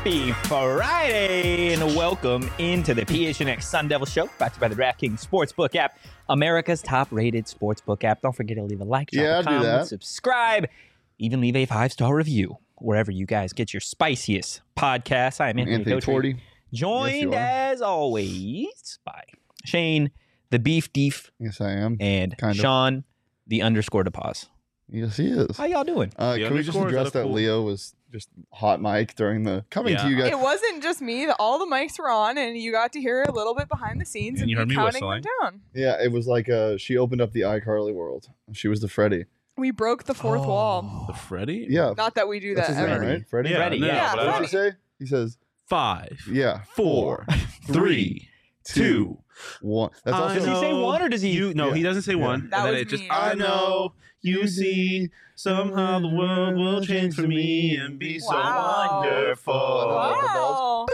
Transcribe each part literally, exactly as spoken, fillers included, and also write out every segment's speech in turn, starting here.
Happy Friday and welcome into the P H N X Sun Devil Show, brought to you by the DraftKings Sportsbook app, America's top-rated sportsbook app. Don't forget to leave a like, drop Yeah, a do comment, that. subscribe, even leave a five-star review wherever you guys get your spiciest podcasts. I am Anthony, Anthony Cotry, Torty. joined Yes, as always by Shane, the Beef Deef, Yes, I am. and Kind of. Sean, the underscore DePause. Yes, he is. How y'all doing? Uh, The can we just underscore, is address that a that cool- Leo was just hot mic during the coming Yeah. to you guys? It wasn't just me. The, all the mics were on, and you got to hear a little bit behind the scenes And and you me heard me counting whistling. them down. Yeah, it was like uh, she opened up the iCarly world. She was the Freddy. We broke the fourth Oh. wall. The Freddy? Yeah, Not that we do that's that his ever. name, right? Freddy. Yeah, Freddy, no, yeah. but What I- did he say? He says, Five, "Yeah, four, three, two. one." That's I also Does he say know one or does he? You no, Yeah. he doesn't say Yeah. one. That and then was it just me. I know you see somehow the world will change for me and be so Wow. wonderful. Wow.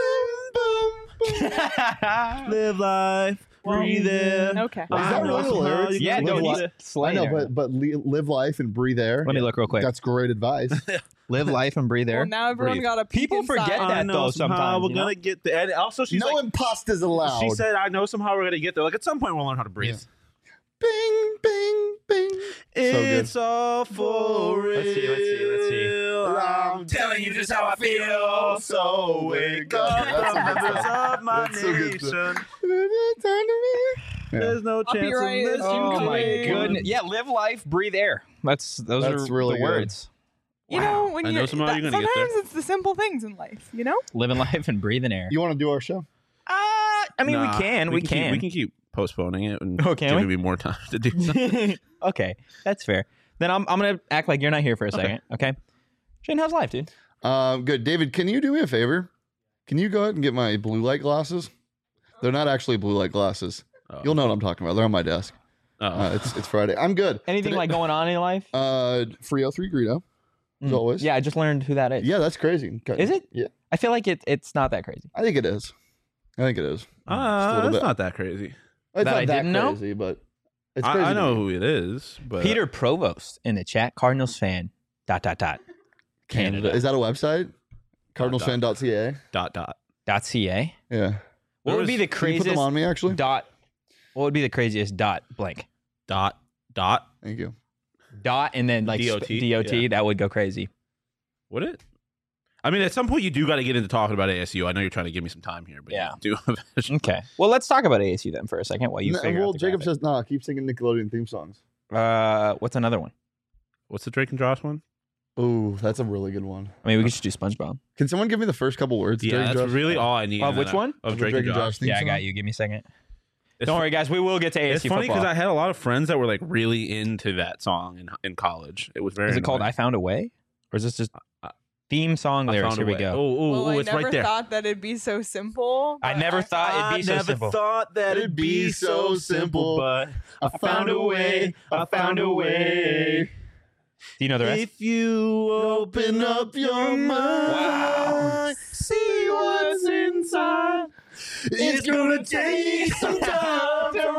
Live life, breathe in. Okay. Is that really the lyrics? Yeah, Live no, li- he's I slaying know, there. but but li- live life and breathe air. Let me look real quick. That's great advice. Live life and breathe air. Well, now everyone Breathe. got a peek People forget inside. that, I know though, somehow sometimes, we're you know? gonna get there. And also, she's no like, imposters allowed. she said, "I know somehow we're gonna get there. Like at some point, we'll learn how to breathe." "Bing, bing, bing." It's all for real. Let's see, let's see, let's see. I'm telling you just how I feel. So wake up, That's the a good members song. of my That's so good nation. Yeah. There's no chance Copyright unless is you Oh my claim. goodness! Yeah, live life, breathe air. That's those That's are really the good. words. You know, when I you know somehow that, you're gonna get there. sometimes it's the simple things in life, you know? Living life and breathing air. You want to do our show? Uh, I mean, Nah, we can, we, keep- can. we can keep postponing it and Oh, can giving we? me more time to do something. Okay, that's fair. Then I'm I'm gonna act like you're not here for a second. Okay, Shane, how's life, dude? Um, good. David, can you do me a favor? Can you go ahead and get my blue light glasses? They're not actually blue light glasses. Oh. You'll know what I'm talking about. They're on my desk. Oh. Uh, it's it's Friday. I'm good. Anything Today- like going on in your life? uh Frio three Greedo, as Mm. always. Yeah, I just learned who that is. Yeah, that's crazy. Is it? Yeah, I feel like it it's not that crazy. I think it is. I think it is. Just a Uh, little it's bit. not that crazy. It's That not I that didn't know? crazy, but it's I, crazy. I to know me. who it is, but Peter Provost in the chat, Cardinals fan. Dot dot dot. Canada. Canada. Is that a website? cardinals fan dot c a. dot dot. Dot ca. Yeah. What There would was- be the Can you put craziest them on me, actually? dot? What would be the craziest dot blank? Dot dot. Thank you. Dot and then like D O sp- T, D O T. yeah. That would go crazy. Would it? I mean, at some point, you do got to get into talking about A S U. I know you're trying to give me some time here, but Yeah. you do. Okay. Well, let's talk about A S U then for a second while you No, figure well, out the Jacob graphic. says, nah, keep singing Nickelodeon theme songs. Uh, what's another one? What's the Drake and Josh one? Ooh, that's a really good one. I mean, we could just do SpongeBob. Can someone give me the first couple words? Yeah, Drake and that's Josh? really all I need. Of in which that- one? Of Of Drake, and Josh. theme Yeah, I song? got you. Give me a second. It's Don't fu- worry, guys. We will get to A S It's U funny football. because I had a lot of friends that were like really into that song in in college. It was very. Is it called annoying. "I Found a Way" or is this just Uh, theme song I lyrics? found Here a we way. go. Oh, oh, well, oh, I it's never right there. thought that it'd be so simple. I but never thought it'd be I so never simple. thought that it'd be so simple, but I found a way. I found a way. Do you know the rest? If you open up your mind, Wow. see what's inside. It's gonna take some time to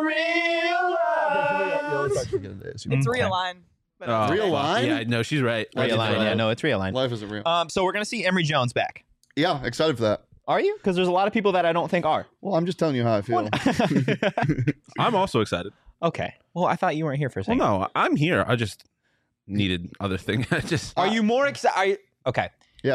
realize. It's Okay. realign. But Oh, Real fuck. line? Yeah, no, she's right. Real Real line. right. Yeah, no, it's real line. Life isn't real. Um, so we're gonna see Emory Jones back. Yeah, excited for that. Are you? Because there's a lot of people that I don't think are. Well, I'm just telling you how I feel. I'm also excited. Okay. Well, I thought you weren't here for a Well, second. no, I'm here. I just needed other things. I just Are you more excited? Okay. Yeah.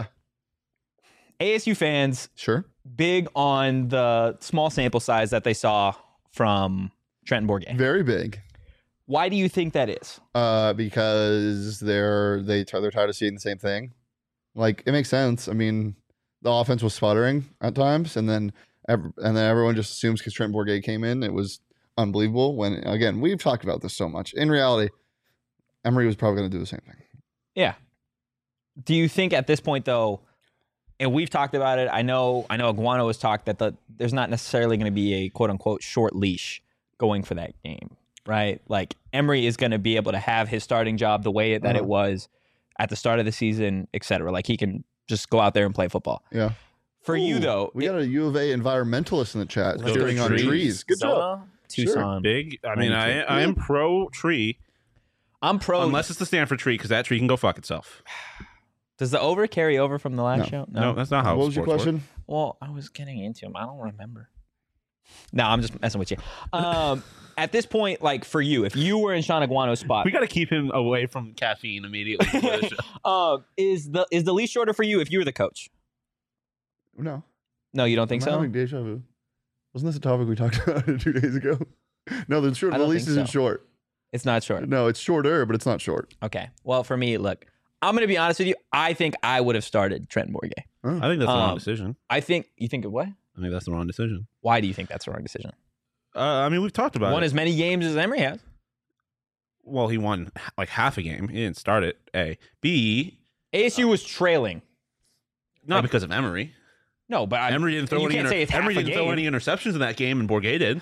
A S U fans Sure. big on the small sample size that they saw from Trenton Bourget. Very big. Why do you think that is? Uh, because they're they they're tired of seeing the same thing. Like it makes sense. I mean, the offense was sputtering at times, and then ev- and then everyone just assumes because Trent Bourget came in, it was unbelievable. When again, we've talked about this so much. In reality, Emory was probably going to do the same thing. Yeah. Do you think at this point though, and we've talked about it, I know I know Iguano has talked that the, there's not necessarily going to be a quote unquote short leash going for that game, right? Like Emory is going to be able to have his starting job the way that Uh-huh. it was at the start of the season, et cetera. Like he can just go out there and play football. Yeah. For you Ooh, though, we got a U of A environmentalist in the chat Let's go cheering on trees. trees. Good job. Arizona, Tucson. big. I mean, I ninety-two. I am pro tree I'm pro. unless it's the Stanford tree because that tree can go fuck itself. Does the over carry over from the last No. show? No, that's not how What was your sports work. question? Well, I was getting into him. I don't remember. No, I'm just messing with you. Um, at this point, like for you, if you were in Sean Aguano's spot, We got to keep him away from caffeine immediately. before the show. uh, is the is the leash shorter for you if you were the coach? No. No, you don't think I'm so? having deja vu. Wasn't this a topic we talked about two days ago? No, the short. I The don't lease think isn't so. short. It's not short. No, it's shorter, but it's not short. Okay. Well, for me, look, I'm going to be honest with you. I think I would have started Trenton Bourguet. I think that's the wrong Um, decision. I think you think of what? I think that's the wrong decision. Why do you think that's the wrong decision? Uh, I mean, we've talked about Won it. as many games as Emery has. Well, he won h- like half a game. He didn't start it. A. B. A S U was trailing. Not Like- because of Emery. No, but I, Emery didn't throw you any. can't inter- say it's half Emery a didn't throw game. any interceptions in that game, and Bourguet did.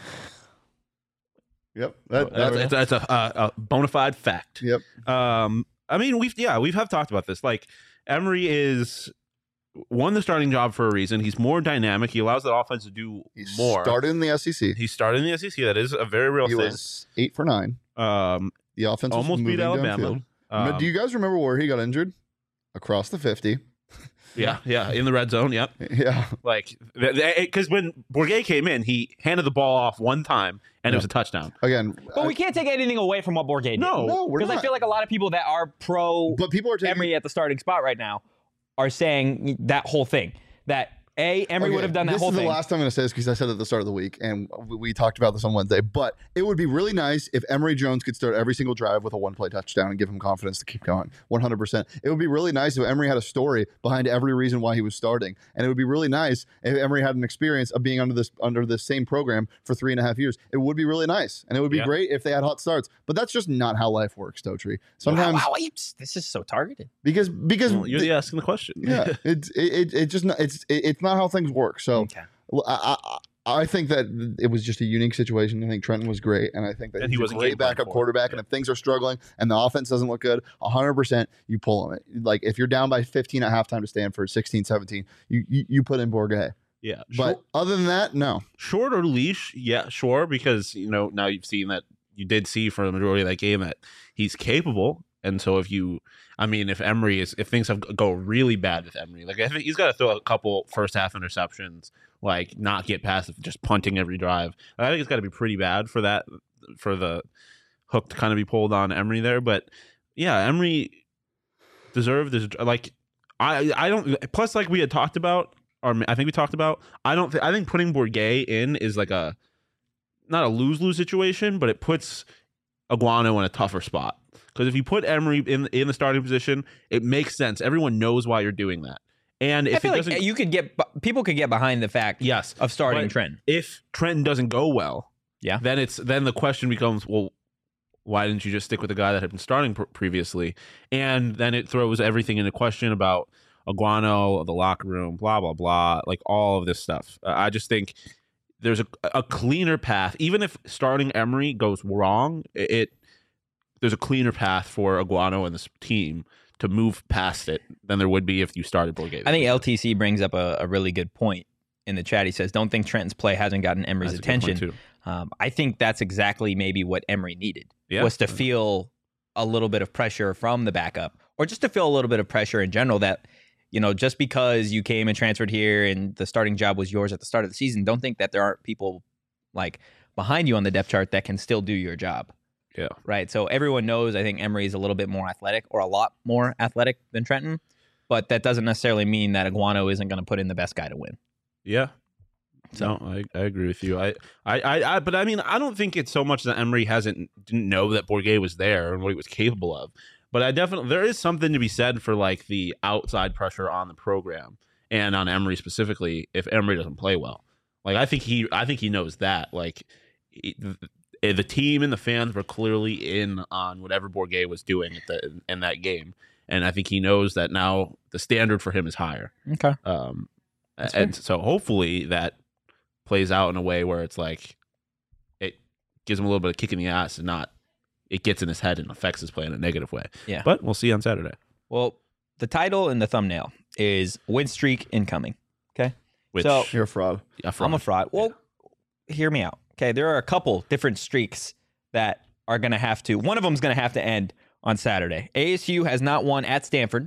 Yep. That, That's, that- that's, that's a, a, a bona fide fact. Yep. Um, I mean, we've yeah, we've have talked about this. Like Emery is won the starting job for a reason. He's more dynamic. He allows the offense to do He more. started in the S E C. He started in the S E C. That is a very real He thing. was eight for nine. um, The offense was almost beat moving Alabama. downfield. Um, Do you guys remember where he got injured? Across the fifty. yeah, yeah, in the red zone. Yep. Yeah. Like because when Bourguet came in, he handed the ball off one time, and it was a touchdown. Again. But I- we can't take anything away from what Bourguet did. No, no, we're Because I not. feel like a lot of people that are pro But people are taking. Emery at the starting spot right now are saying that whole thing. That A, Emery Okay, would have done that this whole is thing. the last time I'm going to say this because I said it at the start of the week, and we- we talked about this on Wednesday. But it would be really nice if Emery Jones could start every single drive with a one-play touchdown and give him confidence to keep going. one hundred percent. It would be really nice if Emery had a story behind every reason why he was starting, and it would be really nice if Emery had an experience of being under this under this same program for three and a half years. It would be really nice, and it would be Yeah. great if they had hot starts. But that's just not how life works, Totri. Sometimes wow, wow, you- this is so targeted. because because Well, you're the asking the question. yeah, it's it, it, it just not, it's it, it's not how things work. So. Okay. Well, I, I I think that it was just a unique situation. I think Trenton was great, and I think that And he's he a wasn't great game plan backup for it. quarterback. And if things are struggling and the offense doesn't look good, one hundred percent you pull him. Like if you're down by fifteen at halftime to Stanford, sixteen seventeen, you you, you put in Bourguet. yeah. But Short, other than that, no. short or leash, yeah, sure. Because you know now you've seen that you did see for the majority of that game that he's capable. And so if you, I mean, if Emery is, if things have go really bad with Emery, like I think he's got to throw a couple first half interceptions, like not get past just punting every drive. I think it's got to be pretty bad for that, for the hook to kind of be pulled on Emery there. But yeah, Emery deserved this. Like I, I don't. Plus, like we had talked about, or I think we talked about. I don't. Th- I think putting Bourguet in is like a not a lose lose situation, but it puts Aguano in a tougher spot. Because if you put Emery in in the starting position, it makes sense. Everyone knows why you're doing that. And I if it feel like doesn't, you could get people could get behind the fact yes, of starting but Trenton. if Trenton doesn't go well, Yeah. then it's then the question becomes, well, why didn't you just stick with the guy that had been starting pr- previously? And then it throws everything into question about Aguano, the locker room, blah blah blah, like all of this stuff. Uh, I just think there's a, a cleaner path. Even if starting Emery goes wrong, it, it there's a cleaner path for Aguano and this team to move past it than there would be if you started Bourguet. I think L T C brings up a, a really good point in the chat. He says, "Don't think Trenton's play hasn't gotten Emery's That's a good point, attention." too. Um, I think that's exactly maybe what Emery needed Yeah. was to feel a little bit of pressure from the backup, or just to feel a little bit of pressure in general. That you know, just because you came and transferred here and the starting job was yours at the start of the season, don't think that there aren't people like behind you on the depth chart that can still do your job. Yeah. Right. So everyone knows I think Emery is a little bit more athletic or a lot more athletic than Trenton, but that doesn't necessarily mean that Aguano isn't going to put in the best guy to win. Yeah. So- No, I, I agree with you. I, I, I, I, but I mean, I don't think it's so much that Emery hasn't didn't know that Bourguet was there and what he was capable of. But I definitely there is something to be said for like the outside pressure on the program and on Emery specifically if Emery doesn't play well. Like I think he, I think he knows that. Like he, the, the team and the fans were clearly in on whatever Bourguet was doing at the in that game, and I think he knows that now the standard for him is higher. Okay. Um, That's and so hopefully that plays out in a way where it's like it gives him a little bit of kick in the ass and not it gets in his head and affects his play in a negative way. Yeah. But we'll see on Saturday. Well, the title and the thumbnail is win streak incoming. Okay. Which So- You're a fraud. a fraud. I'm a fraud. Well, hear me out. Okay. There are a couple different streaks that are going to have to, one of them is going to have to end on Saturday. A S U has not won at Stanford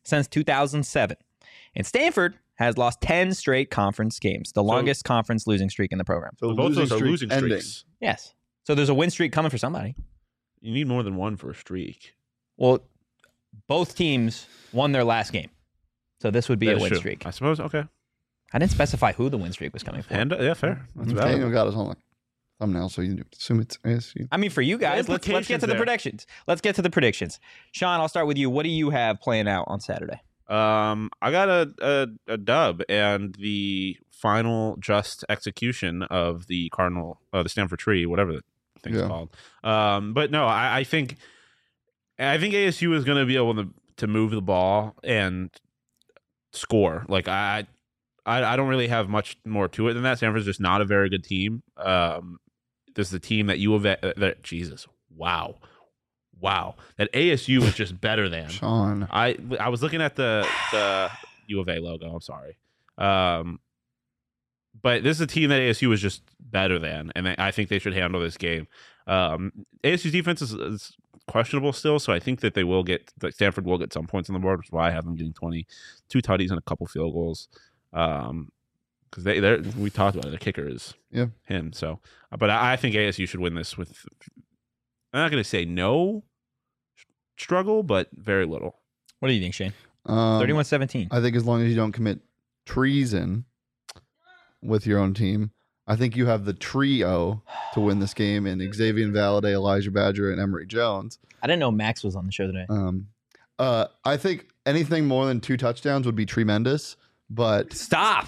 since two thousand seven. And Stanford has lost ten straight conference games, the longest conference losing streak in the program. So Both those are streak losing ending. streaks. Yes. So there's a win streak coming for somebody. You need more than one for a streak. Well, both teams won their last game. So this would be That a is win true. streak. I suppose. Okay. I didn't specify who the win streak was coming for. And uh, yeah, fair. That's valid. Daniel got us on the thumbnail, so you can assume it's A S U. I mean, for you guys, let's, let's get to the implications there. predictions. Let's get to the predictions. Sean, I'll start with you. What do you have playing out on Saturday? Um, I got a, a a dub and the final just execution of the Cardinal, uh, the Stanford Tree, whatever the thing's Yeah. called. Um, but no, I, I think I think A S U is going to be able to to move the ball and score. Like I, I, I don't really have much more to it than that. Stanford's just not a very good team. Um, this is a team that U of A. That Jesus, wow, wow, that A S U is just better than. Sean. I I was looking at the the U of A logo. I'm sorry, um, but this is a team that A S U is just better than, and I think they should handle this game. Um, A S U's defense is, is questionable still, so I think that they will get that Stanford will get some points on the board, which is why I have them getting twenty, two tutties and a couple field goals. Um, because they they we talked about it, the kicker is Yeah. him. So, but I, I think A S U should win this with. I'm not going to say no struggle, but very little. What do you think, Shane? Um, thirty-one seventeen. I think as long as you don't commit treason with your own team, I think you have the trio to win this game in Xavier Valade, Elijah Badger, and Emory Jones. I didn't know Max was on the show today. Um, uh, I think anything more than two touchdowns would be tremendous, but Stop.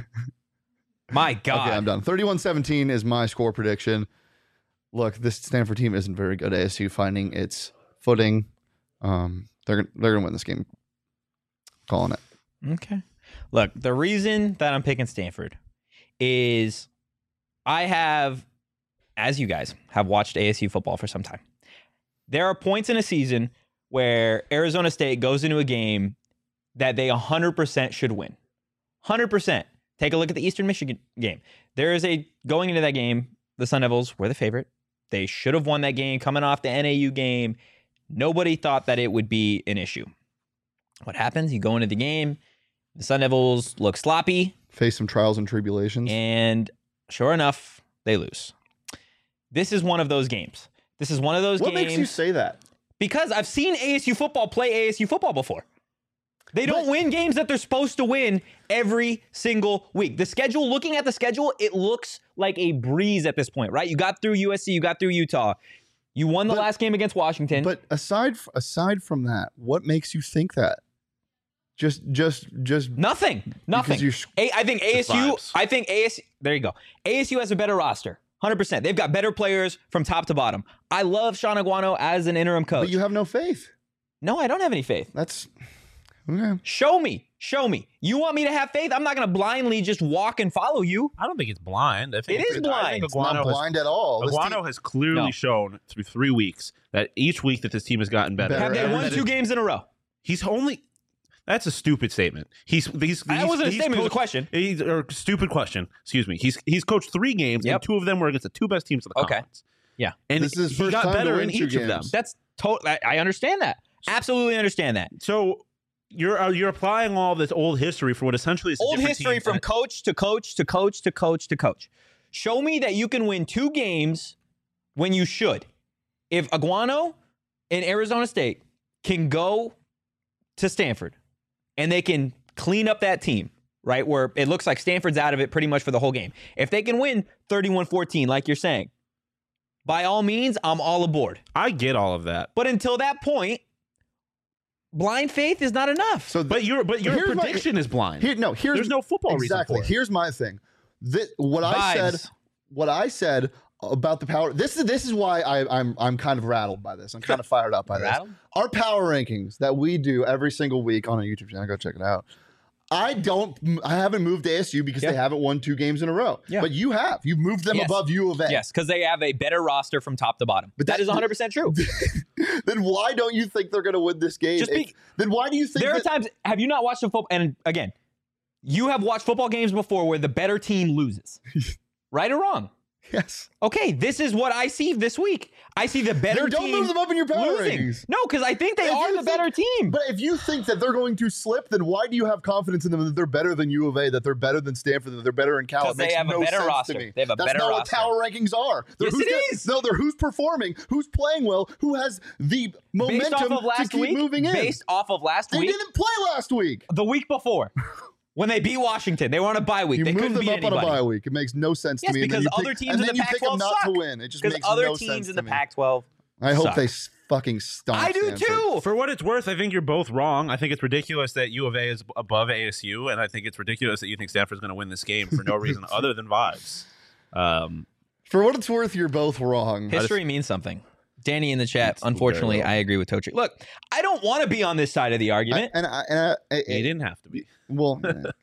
My God. okay, I'm done. thirty-one seventeen is my score prediction. Look, this Stanford team isn't very good. A S U finding its footing. Um, they're gon- they're gonna win this game. Calling it. Okay. Look, the reason that I'm picking Stanford is I have, as you guys have watched A S U football for some time, there are points in a season where Arizona State goes into a game that they one hundred percent should win. one hundred percent. Take a look at the Eastern Michigan game. There is a, going into that game, the Sun Devils were the favorite. They should have won that game coming off the N A U game. Nobody thought that it would be an issue. What happens? You go into the game, the Sun Devils look sloppy, Face some trials and tribulations. and sure enough, they lose. This is one of those games. This is one of those what games. makes you say that? Because I've seen A S U football play A S U football before. They don't But- win games that they're supposed to win every single week. The schedule, looking at the schedule, it looks like a breeze at this point, right? You got through U S C, you got through Utah. You won the But- last game against Washington. But aside f- aside from that, what makes you think that? Just just just nothing. Nothing. you sh- A- I think Just A S U, vibes. I think A S U, there you go. A S U has a better roster. one hundred percent. They've got better players from top to bottom. I love Sean Aguano as an interim coach. but you have no faith. no, I don't have any faith. That's okay. Show me. Show me. You want me to have faith? I'm not going to blindly just walk and follow you. I don't think it's blind. I think It is I blind. think It's not Aguano has blind at all. This Aguano team- has clearly No. shown through three weeks that each week that this team has gotten better. Better. Have they every won day. two games in a row? He's only. That's a stupid statement. He's he's. That he's- wasn't a he's statement, it was a coached- question. He's, or stupid question. Excuse me. He's he's coached three games Yep. and two of them were against the two best teams of the Okay. conference. Yeah. and This is his he first got time to better win in two each of them. games. That's total. I I understand that. Absolutely understand that. So you're uh, you're applying all this old history for what essentially is a Old different history team from that- coach to coach to coach to coach to coach. Show me that you can win two games when you should. If Aguano and Arizona State can go to Stanford and they can clean up that team, right, where it looks like Stanford's out of it pretty much for the whole game. If they can win thirty-one fourteen, like you're saying, by all means, I'm all aboard. I get all of that. But until that point, blind faith is not enough. So But your but your Here's my- prediction is blind. here, no, here's There's no football exactly. reason for it. Here's my thing. Thi- what I said, Vibes. what I said about the power. This is this is why I, I'm I'm kind of rattled by this. I'm kind of fired up by Rattled? this. Our power rankings that we do every single week on a YouTube channel. Go check it out. I don't. I haven't moved A S U because Yeah. they haven't won two games in a row. Yeah. But you have. You've moved them Yes. above U of A. Yes, because they have a better roster from top to bottom. But But that that- is one hundred percent true. Then why don't you think they're going to win this game? Just be- If- then why do you think There are that- times, have you not watched the football? And again, you have watched football games before where the better team loses. Right or wrong? Yes. Okay, this is what I see this week. I see the better Then don't team move them up in your power losing. rankings. No, because I think they If are you the think- better team. But if you think that they're going to slip, then why do you have confidence in them that they're better than U of A, that they're better than Stanford, that they're better in Cal? It Because they makes have a no better sense roster. to me. They have a That's better not roster. what power rankings are. They're Yes, who's it get- is. No, they're who's performing, who's playing well, who has the Based momentum off of to last keep week, moving in. based off of last they week, didn't play last week. the week before, when they beat Washington, they were on a bye week. You they move couldn't them beat up anybody. on a bye week. It makes no sense Yes, to me. And then because you other pick, teams and in then the you Pac pick them twelve not suck. to win. It just Because makes other no teams sense in to the me. Pac twelve I hope suck. they s- fucking stomp. I do Stanford. too. For what it's worth, I think you're both wrong. I think it's ridiculous that U of A is above A S U, and I think it's ridiculous that you think Stanford's going to win this game for no reason other than vibes. Um, For what it's worth, you're both wrong. History means something. Danny in the chat. It's Unfortunately, very well. I agree with Totri. Look, I don't want to be on this side of the I, argument. and I, and I, I, you didn't have to be. well,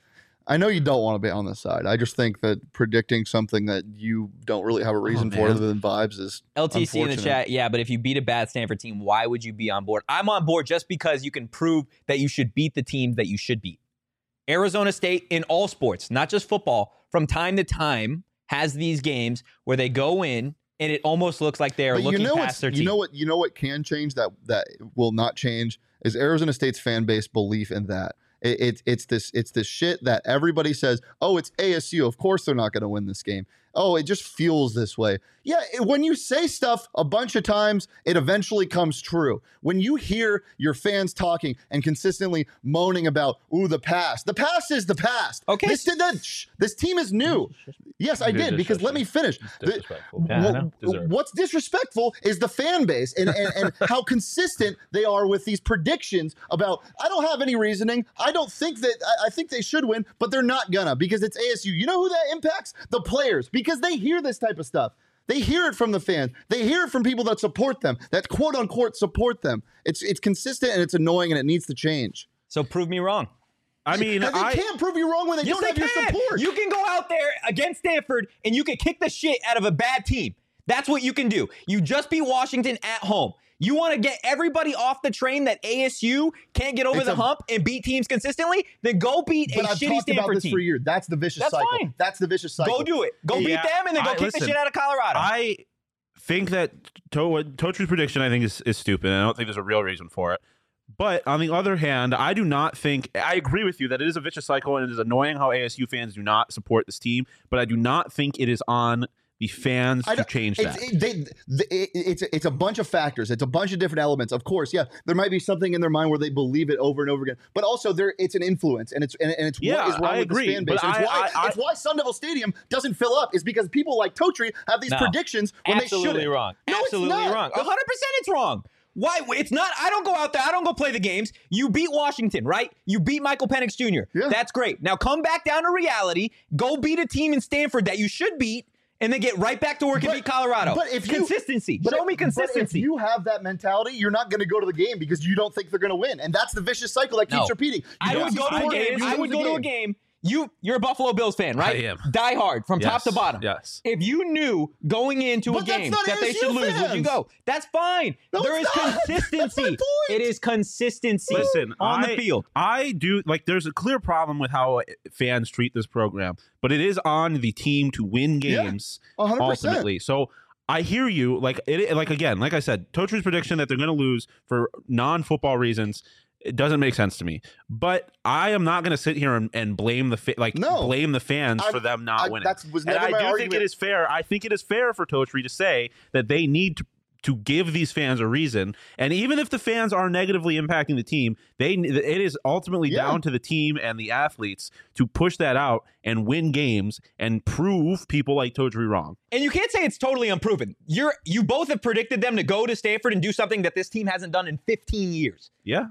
I know you don't want to be on this side. I just think that predicting something that you don't really have a reason for man. other than vibes is L T C in the unfortunate. chat. Yeah, but if you beat a bad Stanford team, why would you be on board? I'm on board just because you can prove that you should beat the teams that you should beat. Arizona State in all sports, not just football, from time to time has these games where they go in and it almost looks like they are But looking you know past what's- their team. You know what? You know what can change that that will not change is Arizona State's fan base belief in that. It, it's it's this it's this shit that everybody says. Oh, it's A S U. Of course they're not going to win this game. Oh, it just feels this way. Yeah, it- when you say stuff a bunch of times, it eventually comes true. When you hear your fans talking and consistently moaning about, ooh, the past. The past is the past. Okay. This did that. Shh, this team is new. Yes, I It is did, because let me finish. The- Disrespectful. Yeah, I Wha- know. Deserved. what's disrespectful is the fan base and, and, and how consistent they are with these predictions about, I don't have any reasoning. I don't think that, I, I think they should win, but they're not gonna because it's A S U. You know who that impacts? The players, because they hear this type of stuff. They hear it from the fans. They hear it from people that support them, that quote unquote support them. It's it's consistent and it's annoying and it needs to change. So prove me wrong. I mean, they I can't prove you wrong when they Yes, don't they have your can. support. You can go out there against Stanford and you can kick the shit out of a bad team. That's what you can do. You just beat Washington at home. You want to get everybody off the train that A S U can't get over It's the a- hump and beat teams consistently? Then go beat but a I've shitty talked about Stanford this team. for years. That's the vicious That's cycle. fine. That's the vicious cycle. Go do it. Go beat Yeah, them and then go I- kick listen, the shit out of Colorado. I think that to- what Totri's prediction, I think, is, is stupid. And I don't think there's a real reason for it. But on the other hand, I do not think I agree with you that it is a vicious cycle and it is annoying how A S U fans do not support this team. But I do not think it is on the fans I to don't- change it's, that. It, they, th- it, it's it's a bunch of factors. It's a bunch of different elements. Of course, yeah, there might be something in their mind where they believe it over and over again. But also, there it's an influence, and it's and, and it's Yeah, what is wrong I with agree, this fan base. but And it's I- why I- I- it's why Sun Devil Stadium doesn't fill up. Is because people like Totri have these No. predictions when they Absolutely shouldn't. wrong. No, it's Absolutely not. wrong. The- one hundred percent it's wrong. Why? It's not. I don't go out there. I don't go play the games. You beat Washington, right? You beat Michael Penix Junior Yeah. That's great. Now come back down to reality. Go beat a team in Stanford that you should beat, and then get right back to work and But- beat Colorado. but if you- consistency, But show if- me But if consistency. you have that mentality, you're not going to go to the game because you don't think they're going to win, and that's the vicious cycle that keeps No. repeating. You I don't would go to a support it, game. you I lose would the go to a game. You, you're a Buffalo Bills fan, right? I am. Die hard from top Yes, to bottom. yes. If you knew going into But a that's game not that they A S U should lose, would you fans. go? That's fine. No, there is it's not. That's my consistency. point. It is consistency Listen, on I, the field. I do like. There's a clear problem with how fans treat this program, but it is on the team to win Yeah, games one hundred percent. ultimately. So I hear you. Like it. Like again, like I said, Totri's prediction that they're going to lose for non-football reasons. It doesn't make sense to me, but I am not going to sit here and, and blame the fa- like No. blame the fans I- for them not I- winning. that was and never I my do argument. think it is fair. I think it is fair for Totri to say that they need to to give these fans a reason, and even if the fans are negatively impacting the team, they it is ultimately Yeah. down to the team and the athletes to push that out and win games and prove people like Totri wrong. And you can't say it's totally unproven. You're you both have predicted them to go to Stanford and do something that this team hasn't done in fifteen years. Yeah.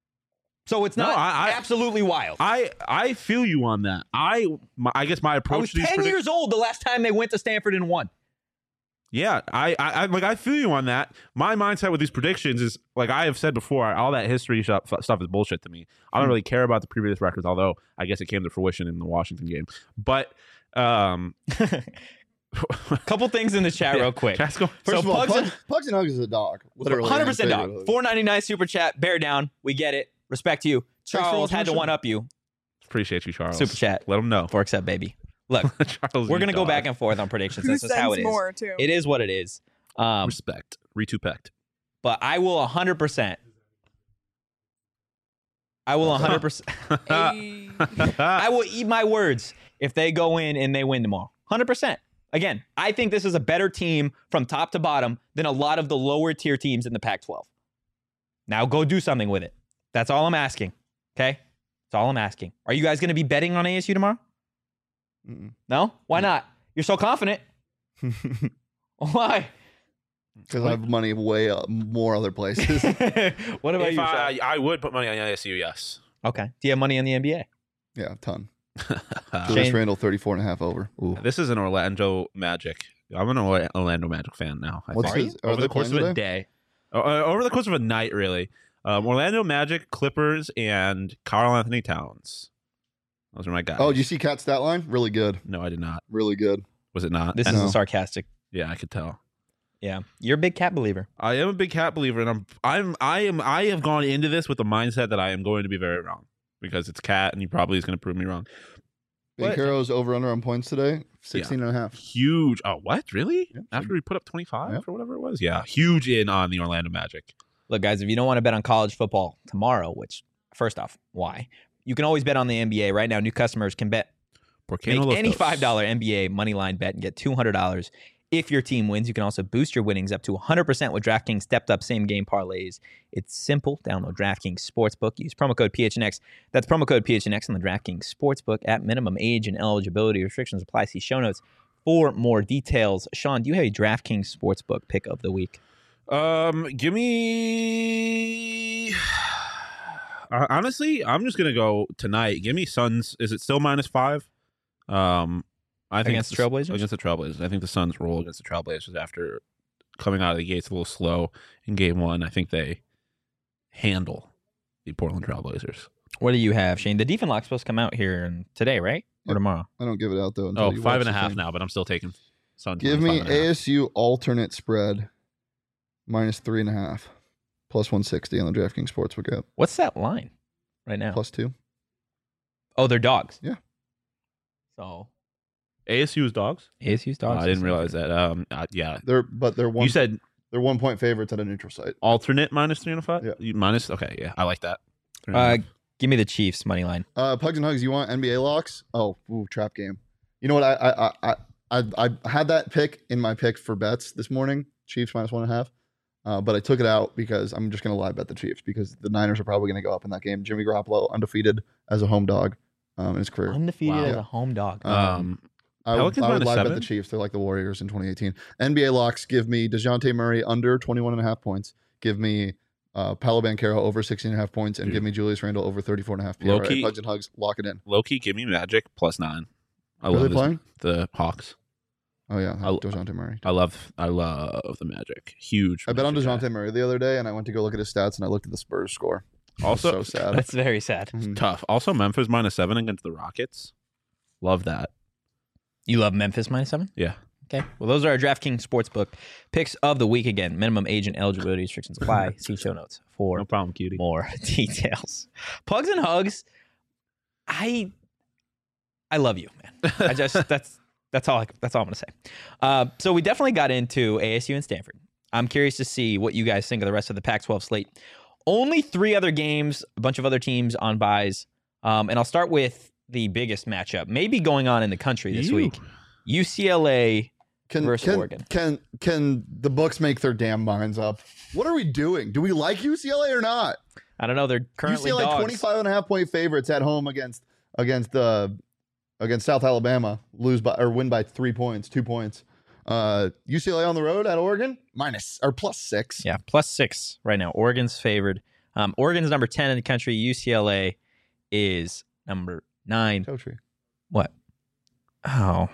So it's No, not I- I- absolutely wild. I I feel you on that. I my, I guess my I approach was to these ten predict- years old the last time they went to Stanford and won. Yeah, I, I, I like I feel you on that. My mindset with these predictions is like I have said before, all that history stuff, stuff is bullshit to me. I don't really care about the previous records, although I guess it came to fruition in the Washington game. But um, Couple things in the chat yeah, real quick. chat's going- First So of all, Pugs Pugs, and- Pugs and Hugs is a dog. Literally. one hundred percent and dog. figuratively. four ninety-nine super chat. Bear down. We get it. Respect to you. Thanks for Charles watching had the to show. one up you. Appreciate you, Charles. Super chat. Let them know. Forks up, baby. Look, Charles we're gonna Ute go dog. back and forth on predictions. Who That's just how sends it is. more too? It is what it is. Um, Respect. Retupect. but I will one hundred percent. I will one hundred percent. Ayy. I will eat my words if they go in and they win tomorrow. one hundred percent. Again, I think this is a better team from top to bottom than a lot of the lower tier teams in the Pac twelve. Now go do something with it. That's all I'm asking. Okay? That's all I'm asking. Are you guys going to be betting on A S U tomorrow? Mm-mm. No? Why not? You're so confident. Why? Because I have money way uh, more other places. What about If you, I, Sean? I would put money on A S U, yes. Okay. Do you have money in the N B A? Yeah, a ton. Uh, Julius Shane- Randle, thirty-four and a half over. Ooh. this is an Orlando Magic. I'm an Orla- Orlando Magic fan now. I What's think. his, are Over they the course of playing a today? day. Uh, over the course of a night, really. Um, Orlando Magic, Clippers, and Karl Anthony Towns. Those are my guys. Oh, did you see Cat's stat line? Really good. No, I did not. Really good. Was it not? This And- is No. a sarcastic. yeah, I could tell. Yeah. You're a big cat believer. I am a big cat believer, and I'm I'm I am I have gone into this with the mindset that I am going to be very wrong because it's Cat, and he probably is going to prove me wrong. Big What? Heroes over under on points today, sixteen and a half. Huge. Oh, what? Really? Yeah. After we put up twenty-five Yeah. or whatever it was? Yeah, huge in on the Orlando Magic. Look, guys, if you don't want to bet on college football tomorrow, which, first off, why? You can always bet on the N B A. Right now, new customers can bet Porque Make no los any dos. five dollar N B A money line bet and get two hundred dollars if your team wins. You can also boost your winnings up to one hundred percent with DraftKings stepped up same game parlays. It's simple. Download DraftKings Sportsbook. Use promo code P H N X. That's promo code P H N X on the DraftKings Sportsbook. At minimum age and eligibility restrictions apply. See show notes for more details. Sean, do you have a DraftKings Sportsbook pick of the week? Um, give me. Uh, honestly, I'm just gonna go tonight. Give me Suns. Is it still minus five? Um, I think Against it's the Trailblazers? Against the Trailblazers, I think the Suns roll against the Trailblazers after coming out of the gates a little slow in game one. I think they handle the Portland Trailblazers. What do you have, Shane? The defense lock's supposed to come out here and today, right? Or Yep. tomorrow? I don't give it out though. Until Oh, you five watch and a the half thing. now, but I'm still taking Suns. Give minus me five and a half. A S U alternate spread minus three and a half, plus one sixty on the DraftKings Sportsbook app, What's that line right now? plus two. Oh, they're dogs. Yeah. So A S U's dogs. A S U's Oh, dogs. I didn't realize that. Um, uh, yeah, They're but they're one. you said they're one point favorites at a neutral site. alternate minus three and a five. Yeah. You minus. Okay, yeah, I like that. Three and a Uh, half. give me the Chiefs money line. Uh, Pugs and Hugs, you want N B A locks? Oh, ooh, trap game. You know what? I I I I, I had that pick in my pick for bets this morning. Chiefs minus one and a half. Uh, but I took it out because I'm just going to lie bet the Chiefs because the Niners are probably going to go up in that game. Jimmy Garoppolo undefeated as a home dog um, in his career. Undefeated Wow. as a home dog. Um, um, I would, Pelicans I would minus lie bet seven? the Chiefs. They're like the Warriors in twenty eighteen. N B A locks give me DeJounte Murray under twenty-one and a half points. Give me uh, Paolo Banchero over sixteen and a half points. And Dude. give me Julius Randle over thirty-four and a half P R A. Low-key- Pugs and Hugs, lock it in. low key, give me Magic plus nine. I Are love they this- playing? the Hawks. Oh, yeah. I'll- DeJounte Murray. I love, I love the Magic. Huge. I bet on Magic guy. DeJounte Murray the other day, and I went to go look at his stats, and I looked at the Spurs score. Also, so sad. That's very sad. Mhm. tough. Also, Memphis minus seven against the Rockets. Love that. You love Memphis minus seven? Yeah. Okay. Well, those are our DraftKings Sportsbook picks of the week. Again, minimum age and eligibility restrictions apply. See show notes for No problem, cutie. more details. Pugs and Hugs. I I love you, man. I just that's that's all I, that's all I'm gonna say. Uh, so we definitely got into A S U and Stanford. I'm curious to see what you guys think of the rest of the Pac twelve slate. Only three other games, a bunch of other teams on buys, um, and I'll start with the biggest matchup, maybe going on in the country this You. week: U C L A. Can, Versus can, Oregon. Can can the books make their damn minds up? What are we doing? Do we like U C L A or not? I don't know. They're currently U C L A dogs. twenty-five and a half point favorites at home against against uh, against South Alabama, lose by or win by three points, two points. Uh, U C L A on the road at Oregon, minus or plus six. Yeah, plus six right now. Oregon's favored. Um, Oregon's number ten in the country. U C L A is number nine. Toe tree. What? Oh.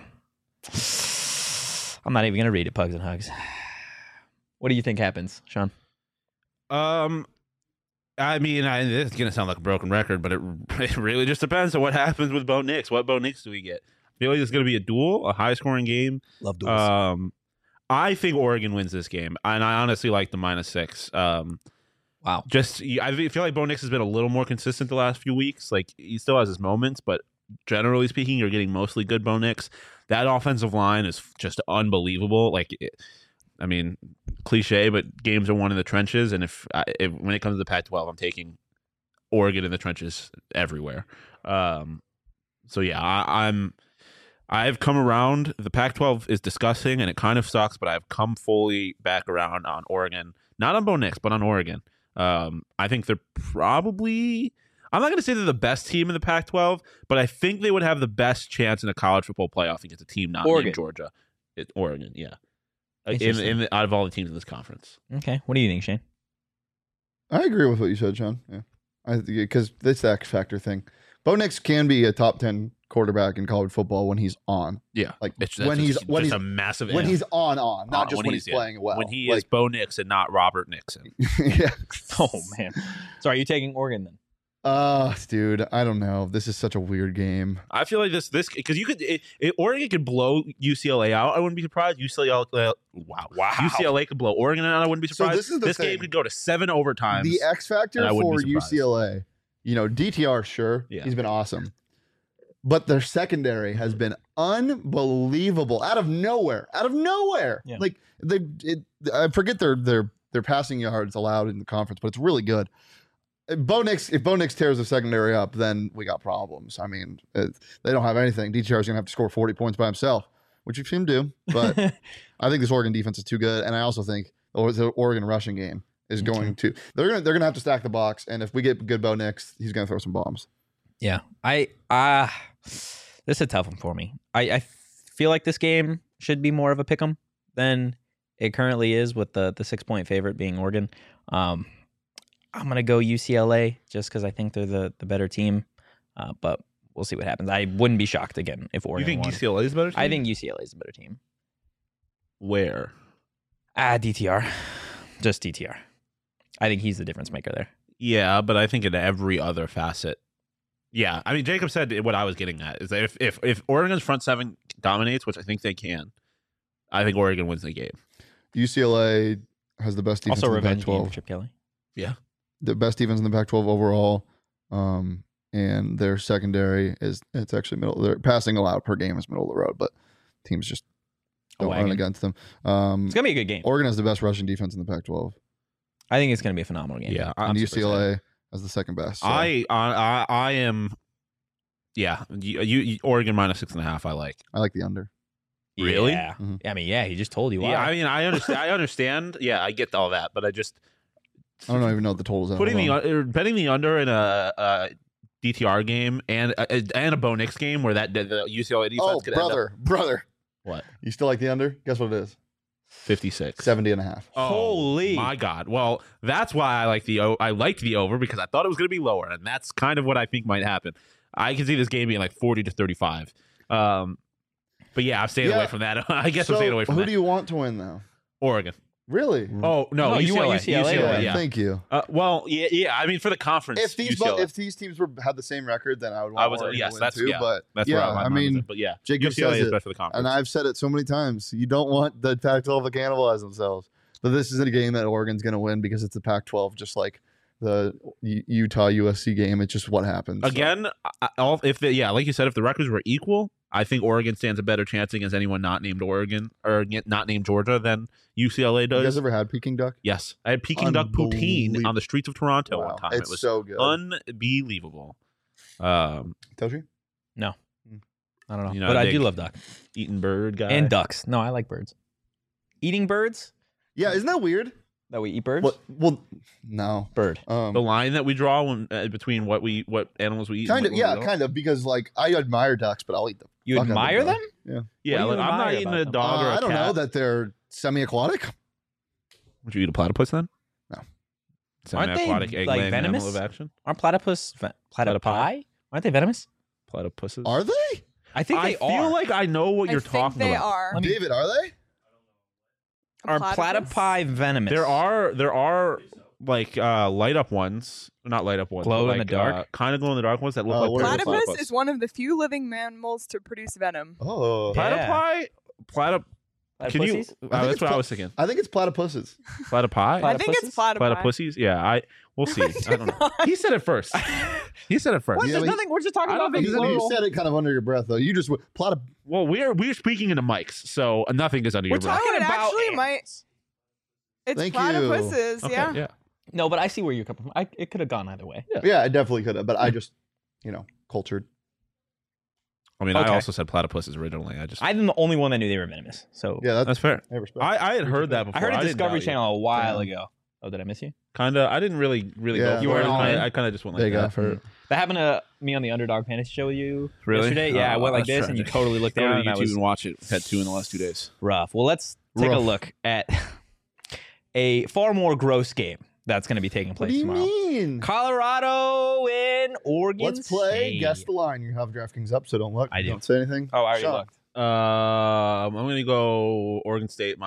I'm not even going to read it, Pugs and Hugs. What do you think happens, Sean? Um, I mean, I, this is gonna sound like a broken record, but it, it really just depends on what happens with Bo Nix. What Bo Nix do we get? I feel like it's gonna be a duel, a high scoring game. Love Um, I think Oregon wins this game, and I honestly like the minus six. Um, wow. just I feel like Bo Nix has been a little more consistent the last few weeks. Like he still has his moments, but generally speaking, you're getting mostly good Bo Nix. That offensive line is just unbelievable. Like, it, I mean, cliche, but games are won in the trenches. And if, if when it comes to the Pac twelve, I'm taking Oregon in the trenches everywhere. Um, so yeah, I, I'm. I've come around. The Pac twelve is disgusting, and it kind of sucks. But I've come fully back around on Oregon, not on Bo Nix, but on Oregon. Um, I think they're probably. I'm not going to say they're the best team in the Pac twelve, but I think they would have the best chance in a college football playoff against a team not Oregon. named Georgia. It, Oregon, yeah. In, Interesting. in the, out of all the teams in this conference. Okay. What do you think, Shane? I agree with what you said, Sean. Yeah, I because this X factor thing. Bo Nix can be a top ten quarterback in college football when he's on. Yeah, Like it's, when that's he's just, when just he's a massive when if. he's on on, not Uh, just when, he's, yeah. playing well. When he like, is Bo Nix and not Robert Nixon. yeah. Oh man. So are you taking Oregon then? Uh, dude, I don't know. This is such a weird game. I feel like this this because you could it, it, Oregon could blow U C L A out. I wouldn't be surprised. U C L A, uh, wow, Wow. U C L A could blow Oregon out. I wouldn't be So surprised. this is the this thing. game could go to seven overtimes. The X factor and I wouldn't for be U surprised. C L A, you know, D T R, sure, Yeah. he's been awesome, but their secondary has been unbelievable. Out of nowhere, out of nowhere. Yeah. Like they, it, I forget their their their passing yards allowed in the conference, but it's really good. If Bo Nix, if Bo Nix tears the secondary up, then we got problems. I mean, it, they don't have anything. D T R is gonna have to score forty points by himself, which you've seen him do. But I think this Oregon defense is too good, and I also think the Oregon rushing game is going to. They're gonna they're gonna have to stack the box, and if we get good Bo Nix, he's gonna throw some bombs. Yeah, I uh this is a tough one for me. I, I feel like this game should be more of a pick'em than it currently is, with the the six point favorite being Oregon. Um, I'm gonna go U C L A just because I think they're the the better team, uh, but we'll see what happens. I wouldn't be shocked again if You Oregon think won. U C L A is better? I team? think U C L A is a better team. Where? Ah, D T R, just D T R. I think he's the difference maker there. Yeah, but I think in every other facet. Yeah, I mean, Jacob said what I was getting at is that if if if Oregon's front seven dominates, which I think they can, I think Oregon wins the game. U C L A has the best defense Also, in the Pac revenge game for twelve. Chip Kelly. The best defense in the Pac twelve overall, um, and their secondary is it's actually middle. Their passing allowed per game is middle of the road, but teams just A don't run wagon. against them. Um, It's gonna be a good game. Oregon has the best rushing defense in the Pac twelve, I think it's gonna be a phenomenal game. Yeah, and I'm U super C L excited. A has the second best. So. I, I I I am. Yeah, you, you Oregon minus six and a half. I like. I like the under. Really? Yeah. Mhm. I mean, yeah. He just told you why. Yeah, I mean, I understand. I understand. Yeah, I get all that, but I just I don't even know what the totals are. putting the Hold on. un- betting the under in a, a D T R game and a, and a Bo Nix game where that the U C L A defense Oh, could end up brother, brother. what You still like the under? Guess what it is? fifty-six. seventy and a half. Oh, Holy. my God! Well, that's why I like the o- I liked the over because I thought it was going to be lower, and that's kind of what I think might happen. I can see this game being like forty to thirty-five. Um, but yeah, I'm staying Yeah. away from that. I guess so I'm staying away from who that. do you want to win though? Oregon. Really? Oh no, No, you want U C L A. U C L A, right? yeah. Thank you. Uh, well, yeah, yeah. I mean, for the conference, If these U C L A. bo- if these teams were had the same record, then I would want I was Oregon yes, to win that's too. yeah, But that's yeah, where my I mind was mean, at. but yeah, Jacob U C L A says is it, best for the conference. and I've said it so many times. You don't want the Pac twelve to cannibalize themselves. But this is a game that Oregon's going to win because it's the Pac twelve, just like the U- Utah U S C game. It's just what happens. So, Again, I, all, if the, yeah, like you said, if the records were equal, I think Oregon stands a better chance against anyone not named Oregon or not named Georgia than U C L A you does. guys ever had Peking duck? Yes, I had Peking duck poutine Unbelievable. on the streets of Toronto Wow. one time. It's it was so good. unbelievable. Um, Toshi? I don't know, You know, but I I do dig- love duck eating bird guy and ducks. No, I like birds. Eating birds? Yeah, isn't that weird? That we eat birds? Well, well no. Bird. Um, The line that we draw when, uh, between what we what animals we eat. kind and of, what we yeah, don't. kind of, because like I admire ducks, but I'll eat them. You Fuck out of admire the them? Yeah. Yeah, What like, do you I'm not admire eating about a them? dog Uh, or a I don't cat. know that they're semi-aquatic. Would you eat a platypus then? No. Aren't they, Semi-aquatic egg like, laying venomous? animal of action. Aren't platypus ve- platypi? Aren't they venomous? Platypuses. Are they? I think I they feel are. like I know what I you're think talking they about. are. Let me- David, are they? A Are platypus? platypi venomous? There are there are like uh, light up ones, not light up ones, Glow but in the like, dark? uh, kind of glow in the dark ones that look Oh, like what are platypus. they? Platypus is one of the few living mammals to produce venom. Oh. Yeah. Platypi, platyp. Can you? Platypussies? Uh, think that's it's what I pla- was thinking. I think it's platypuses. Platypi? I think it's platypi. Platypussies? Yeah, I. We'll see. I don't know. He said it first. He said it first. What? Yeah, There's but- nothing. We're just talking I don't about think the You, you plural. said it kind of under your breath, though. You just went, platyp. Well, we're we're speaking into mics, so nothing is under We're your breath. talking Oh, it about actually ants. might. It's Thank you. platypuses, Okay, yeah. yeah. No, but I see where you're coming from. I, it could have gone either way. Yeah, I definitely could have, but I just, you know, cultured. I mean, Okay. I also said platypuses originally. I just I'm the only one that knew they were venomous. So Yeah, that's that's fair. I respect. I, I had heard that before. I heard a didn't Discovery doubt you. Channel a while Damn. ago. Oh, did I miss you? Kinda. I didn't really really Yeah. go. You for weren't it. all in? I, I kind of just went like there you go. that. For, That happened to me on the Underdog Fantasy Show with you Really? yesterday. Yeah, I Oh, went like that's this, and you tragic. totally looked Go down. to And I YouTube was and watch it. Had two in the last two days. rough. Well, let's take a Rough. look at a far more gross game that's going to be taking what place do you tomorrow. mean? Colorado and Oregon. Let's play. State. Guess the line. You have DraftKings up, so don't look. I do. Don't say anything. Oh, I already Sean. looked. Um, I'm gonna go Oregon State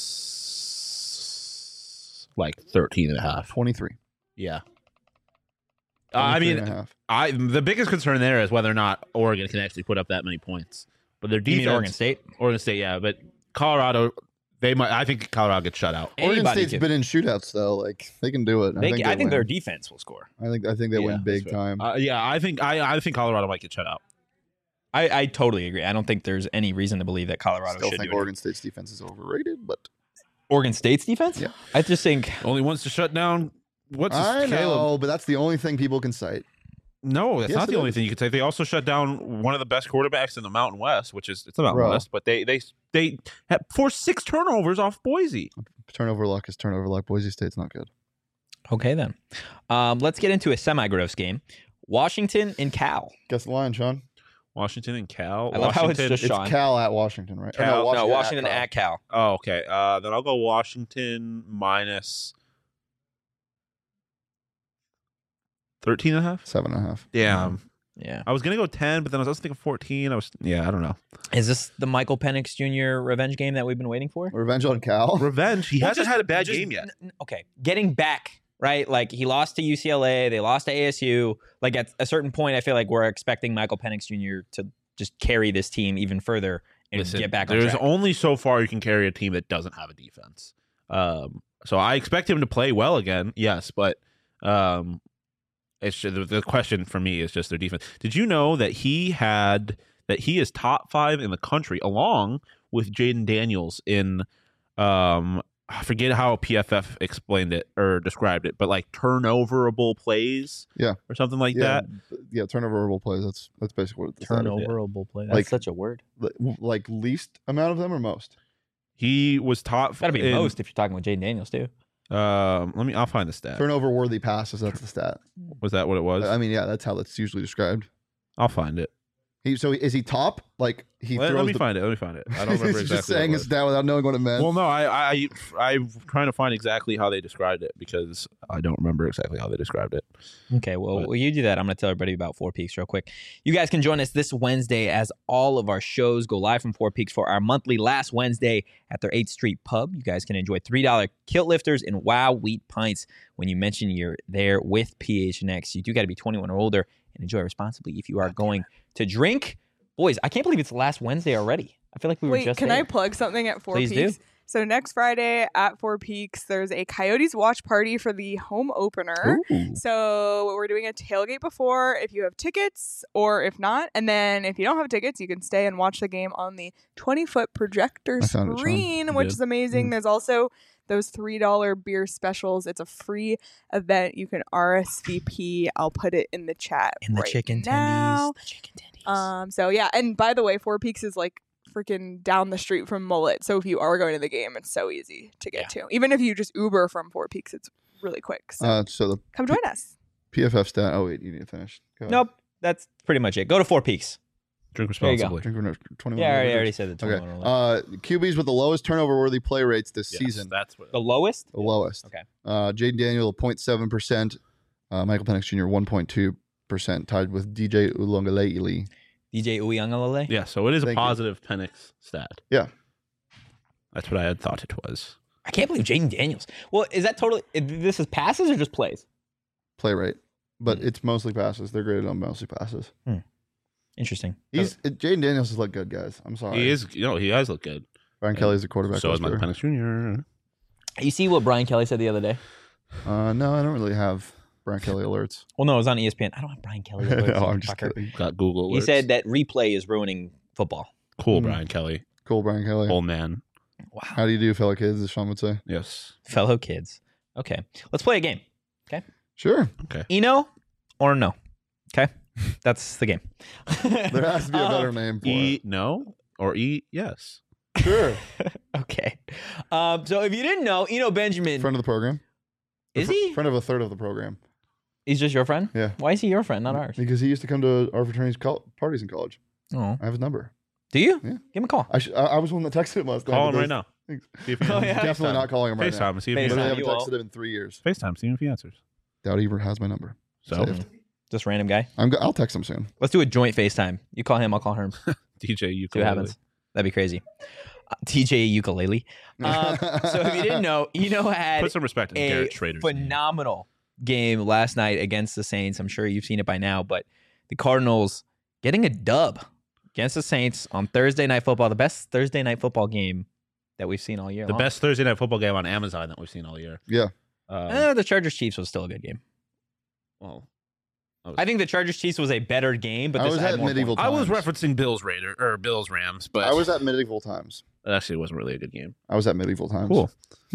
minus like thirteen and a half. twenty-three. Yeah. Uh, I twenty-three mean, and a half. I the biggest concern there is whether or not Oregon can actually put up that many points. But their You defense, mean Oregon State? Oregon State, yeah. But Colorado, they might. I think Colorado gets shut out. Oregon Anybody State's can- been in shootouts though. Like they can do it. They, I think, I think win. their defense will score. I think I think they Yeah, win big that's fair. time. Uh, yeah, I think I I think Colorado might get shut out. I, I totally agree. I don't think there's any reason to believe that Colorado Still should think do it. Oregon State's defense is overrated, but Oregon State's defense? Yeah. I just think Only wants to shut down. What's his, I Caleb? know, but that's the only thing people can cite. No, that's Yes, not the it only is. thing you could say. They also shut down one of the best quarterbacks in the Mountain West, which is it's the Mountain Bro. West, but they they they had forced six turnovers off Boise. Turnover luck is turnover luck. Boise State's not good. okay then. Um, let's get into a semi-gross game. Washington and Cal. Guess the line, Sean. Washington and Cal. I love how it's Washington- just- It's Sean. Cal at Washington, right? Or Cal- No, Washington Cal. at Cal. Oh, okay. Uh, then I'll go Washington minus thirteen and a half. Seven and a half. Yeah. Yeah. I was going to go ten, but then I was also thinking fourteen. I was, yeah, I don't know. Is this the Michael Penix Junior revenge game that we've been waiting for? Revenge on Cal. Revenge. He Well, hasn't just- had a bad just- game yet. n- n- Okay, getting back, right? Like he lost to U C L A, they lost to A S U. Like at a certain point, I feel like we're expecting Michael Penix Junior to just carry this team even further and Listen, get back on there's track. only so far you can carry a team that doesn't have a defense. Um, so I expect him to play well again, yes, but um, it's just, the, the question for me is just their defense. Did you know that he had that he is top five in the country, along with Jaden Daniels in um, I forget how P F F explained it or described it, but like turnoverable plays, Yeah. or something like yeah, that. yeah, turnoverable plays. That's that's basically what it's Turnoverable play. That's Like- such a word. Like, like least amount of them or most? He was top. Got to be in- most if you're talking with Jaden Daniels too. Um, let me. I'll find the stat. Turnover worthy passes. That's the stat. Was that what it was? I mean, yeah, that's how that's usually described. I'll find it. He so is he top? Like he Let, throws let me the, find it. Let me find it. I don't remember He's exactly. just saying what it his was. stat without knowing what it meant. Well, no, I, I, I, I'm trying to find exactly how they described it because I don't remember exactly how they described it. Okay, well, But- while you do that, I'm going to tell everybody about Four Peaks real quick. You guys can join us this Wednesday as all of our shows go live from Four Peaks for our monthly Last Wednesday at their eighth Street Pub. You guys can enjoy three dollar kilt lifters and Wow Wheat pints when you mention you're there with P H N X. You do got to be twenty-one or older and enjoy responsibly if you are going to drink. Boys, I can't believe it's last Wednesday already. I feel like we were Wait, just can I there. plug something at Four Please do. Peaks? So next Friday at Four Peaks, there's a Coyotes watch party for the home opener. Ooh. So we're doing a tailgate before if you have tickets or if not. And then if you don't have tickets, you can stay and watch the game on the twenty-foot projector I found it, Sean. screen, You which did? is amazing. Mm. There's also those three dollar beer specials. It's a free event. You can R S V P. I'll put it in the chat And the right chicken now. tendies. The chicken tendies. Um, so yeah, and by the way, Four Peaks is like freaking down the street from Mullet. So if you are going to the game, it's so easy to get to. Even if you just Uber from Four Peaks, it's really quick. So uh, so the come join us. P F F stat. Oh wait, you need to finish. Go ahead. Nope, that's pretty much it. Go to Four Peaks. Drink There you go. responsibly. Drink or no- twenty-one. Yeah, I or already, I older. already said the Okay. twenty-one or older. Uh, Q Bs with the lowest turnover worthy play rates this Yes, season. That's what. The lowest? The lowest. Okay. Uh, Jaden Daniel, zero point seven percent. Uh, Michael Penix Junior, one point two percent, tied with D J Ulongalele. D J Uyunglele? Yeah, so it is a Thank you. positive Penix stat. Yeah. That's what I had thought it was. I can't believe Jaden Daniels. Well, is that totally, this is passes or just plays? Play rate. But Hmm. it's mostly passes. They're graded on mostly passes. Interesting. He's it, Jaden Daniels has looked good, guys. I'm sorry. He is, you know, he does look good. Brian Kelly's a quarterback. So is Michael whisperer. Penix Junior You see what Brian Kelly said the other day? Uh, no, I don't really have Brian Kelly alerts. Well, no, it was on E S P N. I don't have Brian Kelly. no, alerts, you I'm just fucker. kidding. Got Google. He alerts. said that replay is ruining football. Cool, Mm. Brian Kelly, Cool, Brian Kelly. old man. Wow. How do you do, fellow kids? As Sean would say. Yes. Fellow kids. Okay. Let's play a game. Sure. Eno or no? Okay. That's the game. There has to be a better Um, name for E no or E yes. it. Sure. Okay. Um, so if you didn't know, Eno Benjamin, Friend of the program. is Fr- he? Friend of a third of the program. He's just your friend? Yeah. Why is he your friend, not ours? Because he used to come to our fraternity's col- parties in college. Oh. I have his number. Do you? Yeah. Give him a call. I, sh- I, I was the one that texted him last night. Call him because- right now. Thanks. See if he Oh, answers. yeah. Definitely FaceTime. not calling him right now. FaceTime and see if he FaceTime. Literally answers. haven't you won't. texted him in three years. FaceTime, see if he answers. Doubt he has my number. So Saved. Just random guy. I'm go- I'll text him soon. Let's do a joint FaceTime. You call him, I'll call her. See D J, you what happens. That'd be crazy. Uh, T J ukulele. Um, so if you didn't know, Eno had Put some respect in a Garrett Schrader's name. phenomenal game last night against the Saints. I'm sure you've seen it by now, but the Cardinals getting a dub against the Saints on Thursday Night Football, the best Thursday Night Football game that we've seen all year The long. best Thursday night football game on Amazon that we've seen all year. Yeah. Um, Eh, the Chargers Chiefs was still a good game. well, I think the Chargers Chiefs was a better game, but I this was had at more medieval points. I was times. referencing Bills Raider or Bills Rams, but I was at medieval times. it actually wasn't really a good game. I was at medieval times. Cool.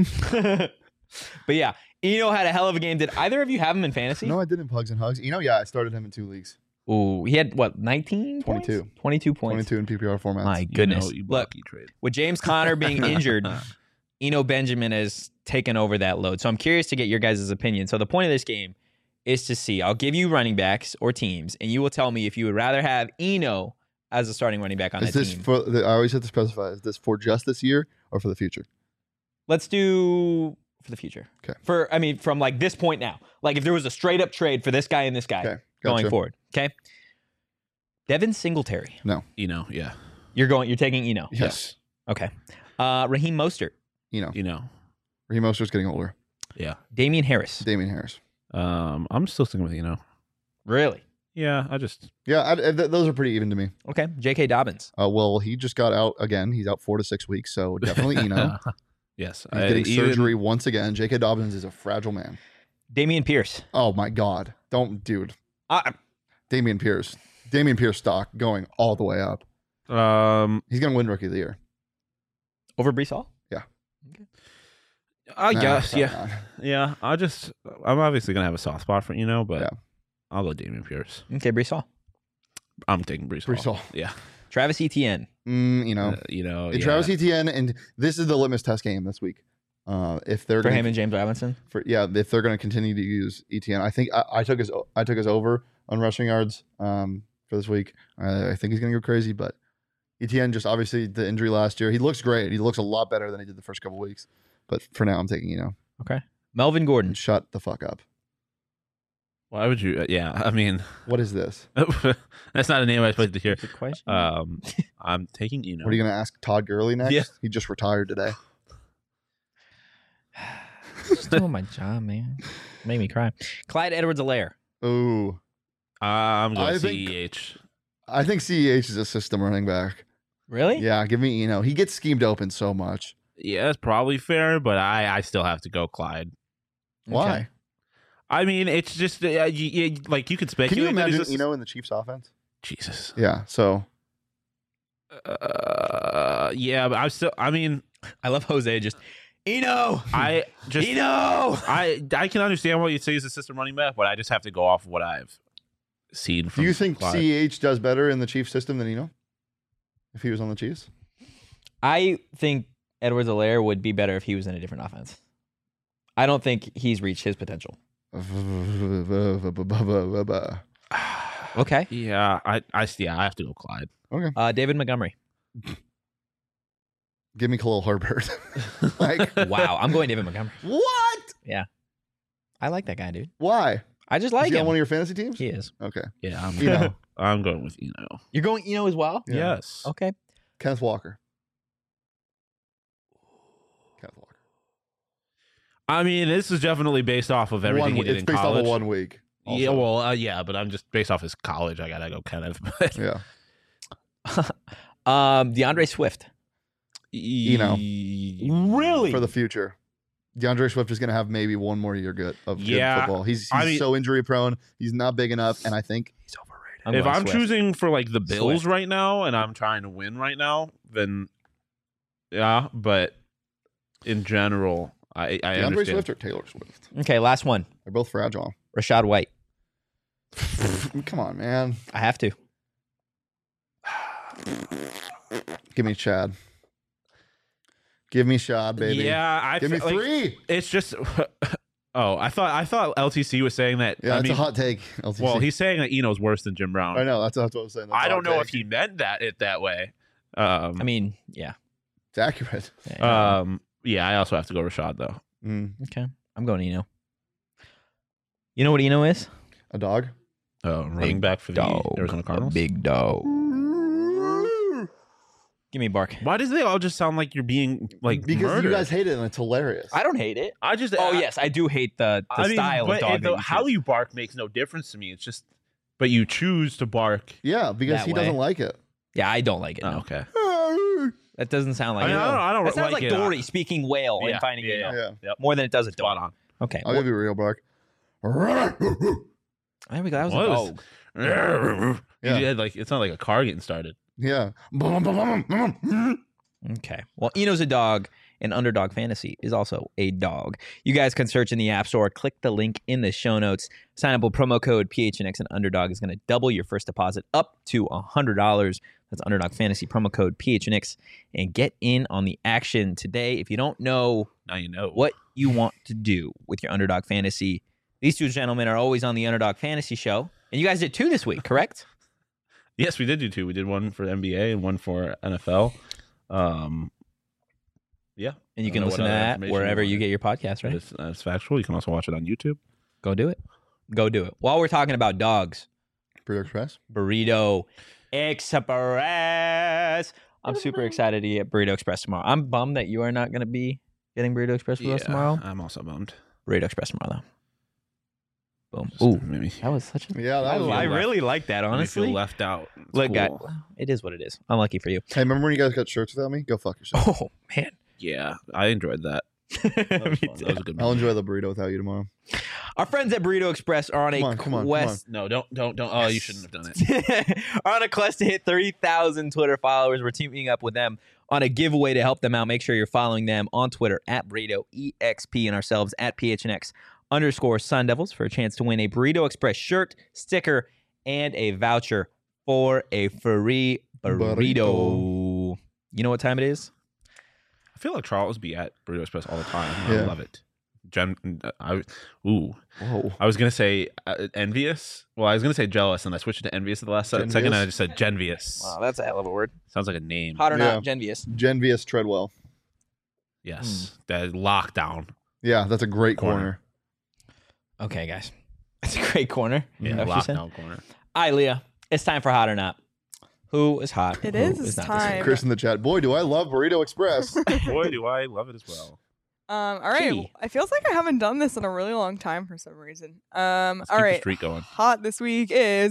But yeah, Eno had a hell of a game. Did either of you have him in fantasy? No, I didn't Pugs and Hugs. You know, yeah, I started him in two leagues. Ooh, he had what, nineteen? twenty-two. Points? twenty-two points. twenty-two in P P R formats. My You goodness. know, you Look, blocky trade. with James Conner being injured, Eno Benjamin has taken over that load. So I'm curious to get your guys' opinion. So the point of this game is to see, I'll give you running backs or teams, and you will tell me if you would rather have Eno as a starting running back on Is that this team. for? The, I always have to specify. Is this for just this year or for the future? Let's do for the future. Okay. For, I mean, from like this point now. Like if there was a straight up trade for this guy and this guy Okay, going gotcha. forward. Okay. Devin Singletary. You know, yeah. You're going, you're taking Eno. Yes. Okay. Uh, Raheem Mostert. You know, You know, Raheem Mostert's getting older. yeah. Damian Harris. Damian Harris. Um, I'm still sticking with you know. Really? Yeah, I just Yeah, I, I- th- those are pretty even to me. Okay. J K. Dobbins. Uh, well, he just got out again. He's out four to six weeks, so definitely Eno. yes. He's I- getting even- surgery once again. J K. Dobbins is a fragile man. Damian Pierce. Oh my God! Don't, dude. Uh, Damian Pierce. Damian Pierce stock going all the way up. Um, He's gonna win Rookie of the Year. over Brees Hall? I Nah, guess, probably yeah, not. yeah. I just, I'm obviously gonna have a soft spot for you know, but Yeah. I'll go Damian Pierce. Okay, Brees Hall. I'm taking Brees. Brees Hall. Hall. Yeah. Travis Etienne. Mm, you know, Uh, you know, and yeah. Travis Etienne, and this is the litmus test game this week. Uh, if they're For gonna, him and James Robinson. for yeah, if they're going to continue to use Etienne, I think I, I took his I took his over on rushing yards um, for this week. I, I think he's going to go crazy, but Etienne just obviously the injury last year. He looks great. He looks a lot better than he did the first couple weeks. But for now, I'm taking you know, Okay. Melvin Gordon. shut the fuck up. Why would you? Uh, yeah, I mean, What is this? that's not a name I expected to hear. Good question. Um, I'm taking you know. What are you going to ask Todd Gurley next? Yeah. He just retired today. Just doing my job, man. Made me cry. Clyde Edwards-Helaire. Ooh, I'm going I C think- E H. I think C E H is a system running back. Really? Yeah, give me you know, he gets schemed open so much. Yeah, that's probably fair, but I, I still have to go Clyde. Why? Okay. I mean, it's just uh, you, you, like you could speculate. Can you that he's imagine just- Eno in the Chiefs offense? Jesus. Yeah. So Uh, yeah, but I still. I mean, I love Jose just, Eno! I just. Eno! I I can understand what you say as a system running back, but I just have to go off of what I've seen. From do you think Clyde. C H does better in the Chiefs system than Eno? If he was on the Chiefs? I think Edwards-Helaire would be better if he was in a different offense. I don't think he's reached his potential. Okay. Yeah, I I yeah, I have to go Clyde. Okay. Uh, David Montgomery. Give me Khalil Herbert. Like Wow. I'm going David Montgomery. what? I like that guy, dude. Why? I just Is like he on him. one of your fantasy teams? He is. Okay. Yeah, I'm Eno. I'm going with Eno. You're going Eno as well? Yeah. Yes. Okay. Kenneth Walker. Kenneth Walker. I mean, this is definitely based off of everything One he we- did it's in based college. off of one week. Yeah, also. well, uh, yeah, but I'm just based off his college. I gotta go Kenneth. But Yeah. um, DeAndre Swift. you know, Really? for the future. DeAndre Swift is going to have maybe one more year good of good Yeah, football. He's, he's I mean- so injury prone. He's not big enough, and I think he's overrated. I'm if going I'm Swift. choosing for like the Bills Swift. right now and I'm trying to win right now, then yeah, but in general, I I DeAndre understand. Swift or Taylor Swift? Okay, last one. They're both fragile. Rashad White. Come on, man. I have to. Give me Chad. Give me Shad, baby. Yeah, I Give me feel like three. it's just. Oh, I thought I thought L T C was saying that. Yeah, I it's mean, a hot take. L T C. well, he's saying that Eno's worse than Jim Brown. I know. That's, that's what I was saying. That's I a don't hot know take. if he meant that it that way. Um, I mean, yeah. It's accurate. Yeah. um, yeah, I also have to go Rashad though. Mm. Okay. I'm going Eno. You know what Eno is? A dog? Uh, running Big back for the dog. Arizona A Cardinals. big dog. Give me a bark. Why does they all just sound like you're being like because murdered? you guys hate it and it's hilarious. I don't hate it. I just Oh I- yes, I do hate the, the I mean, style but of dog. it- that the- you how choose. you bark makes no difference to me. It's just, but you choose to bark. Yeah, because That he way. doesn't like it. Yeah, I don't like it. Oh, No. okay. That doesn't sound like I, mean, it. I don't. I don't That sounds like, like it. Dory speaking whale Yeah, and finding yeah, Eno. Yeah. More than it does a Spot dog. on. Okay. I'll well, give you a real bark. there we go. That was What a was- dog. Yeah. You had, like it's not like a car getting started. Yeah. Okay. Well, Eno's a dog, and Underdog Fantasy is also a dog. You guys can search in the App Store. Click the link in the show notes. Sign up with promo code P H N X, and Underdog is going to double your first deposit up to one hundred dollars. That's Underdog Fantasy, promo code P H N X, and get in on the action today. If you don't know Now you know what you want to do with your Underdog Fantasy, these two gentlemen are always on the Underdog Fantasy show. And you guys did two this week, correct? Yes, we did do two. We did one for N B A and one for N F L. Um, yeah, And you I can don't know listen what to other that information wherever you you wanted. get your podcast, right? That's, that's factual. You can also watch it on YouTube. Go do it. Go do it. While we're talking about dogs, Burrito Express. Burrito Express. I'm super excited to get Burrito Express tomorrow. I'm bummed that you are not going to be getting Burrito Express with us tomorrow. I'm also bummed. Burrito Express tomorrow, though. Boom. Just Ooh, maybe that was such a. Yeah, that I, was I left. really like that, Maybe honestly. feel left out. It's Look, guy, cool. it is what it is. Unlucky for you. Hey, remember when you guys got shirts without me? Go fuck yourself. Oh man, Yeah, I enjoyed that. That was, Me fun. too. That was a good. I'll One. enjoy the burrito without you tomorrow. Our friends at Burrito Express are on Come a on, come on, come quest. No, don't, don't, don't. Oh, you shouldn't have done it. are on a quest to hit thirty thousand Twitter followers. We're teaming up with them on a giveaway to help them out. Make sure you're following them on Twitter at Burrito E X P and ourselves at P H N X underscore Sun Devils for a chance to win a Burrito Express shirt, sticker, and a voucher for a free burrito. Burrito. You know what time it is? I feel like Charles be at Burrito Express all the time. Yeah. I love it. Gen, I, ooh, Whoa. I was gonna say uh, envious. Well, I was gonna say jealous, and I switched it to envious at the last se- second. And I Genvious? just said genvious. Wow, that's a hell of a word. Sounds like a name. Hot or Yeah. not, Genvious. Genvious Treadwell. Yes, that lockdown. Yeah, that's a great Corner. corner. Okay, guys. It's a great corner. Yeah, Is that what you said? lockdown corner. All right, Leah. It's time for hot or not. Who is hot? It Who is, it's not this week? time. Chris in the chat. Boy, do I love Burrito Express. Boy, do I love it as well. Um, all right. Gee. It feels like I haven't done this in a really long time for some reason. Um, Let's all keep the right. streak going. Hot this week is.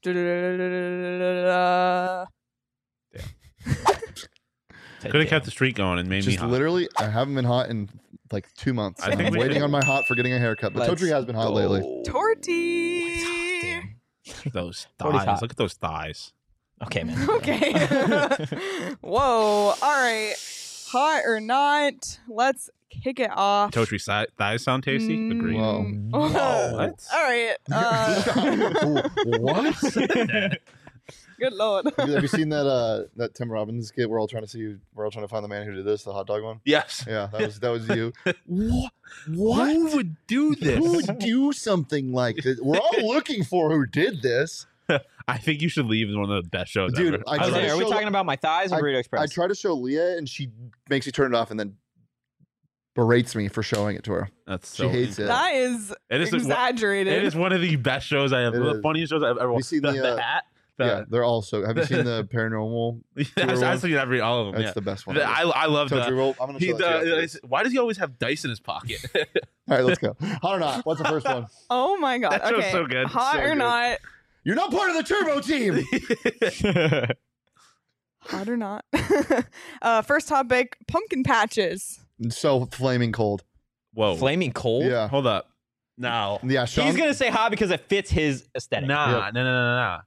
Take Could have it. kept the streak going and made me Just hot. literally, I haven't been hot in like two months. I and think I'm we waiting should- on my hot for getting a haircut. But Let's Totri has been hot lately. go. Torty. Those Cody's thighs. hot. Look at those thighs. Okay, man. Okay. Whoa. All right. Hot or not? Letlet's kick it off. Totri si- thighs sound tasty. Mm. Agree. Whoa. Oh. What? All right. Uh, What? good lord. Have you, have you seen that uh that Tim Robbins skit? We're all trying to see. We're all trying to find the man who did this, the hot dog one. Yes. Yeah, that was that was you. What? What? Who would do this? Who would do something like this? We're all looking for who did this. I think you should leave as one of the best shows Dude, ever. I I was tried like, to are we show- talking about my thighs or Burrito Express? I try to show Leah, and she makes me turn it off, and then berates me for showing it to her. That's She so hates it. That is It is, exaggerated. it is one of the best shows I have. It The is. funniest shows I've ever you watched. seen The, the, the uh, hat. Yeah, The, they're all so. Have you seen the paranormal? I've, one? I've seen every all of them. That's yeah. the best one. The- I, I love Totri, the. roll. I'm gonna He, show that to you after the, this. why does he always have dice in his pocket? All right, let's go. Hot or not? What's the first one? oh my god. That show's Okay. so good. Hot So or good. not? You're not part of the Turbo team. Hot or not? uh, first topic: pumpkin patches. So flaming cold. Whoa. Flaming cold. Yeah. Hold up. Now. Yeah. Sean, He's gonna say hot because it fits his aesthetic. Nah, Yep. no, no, no, no.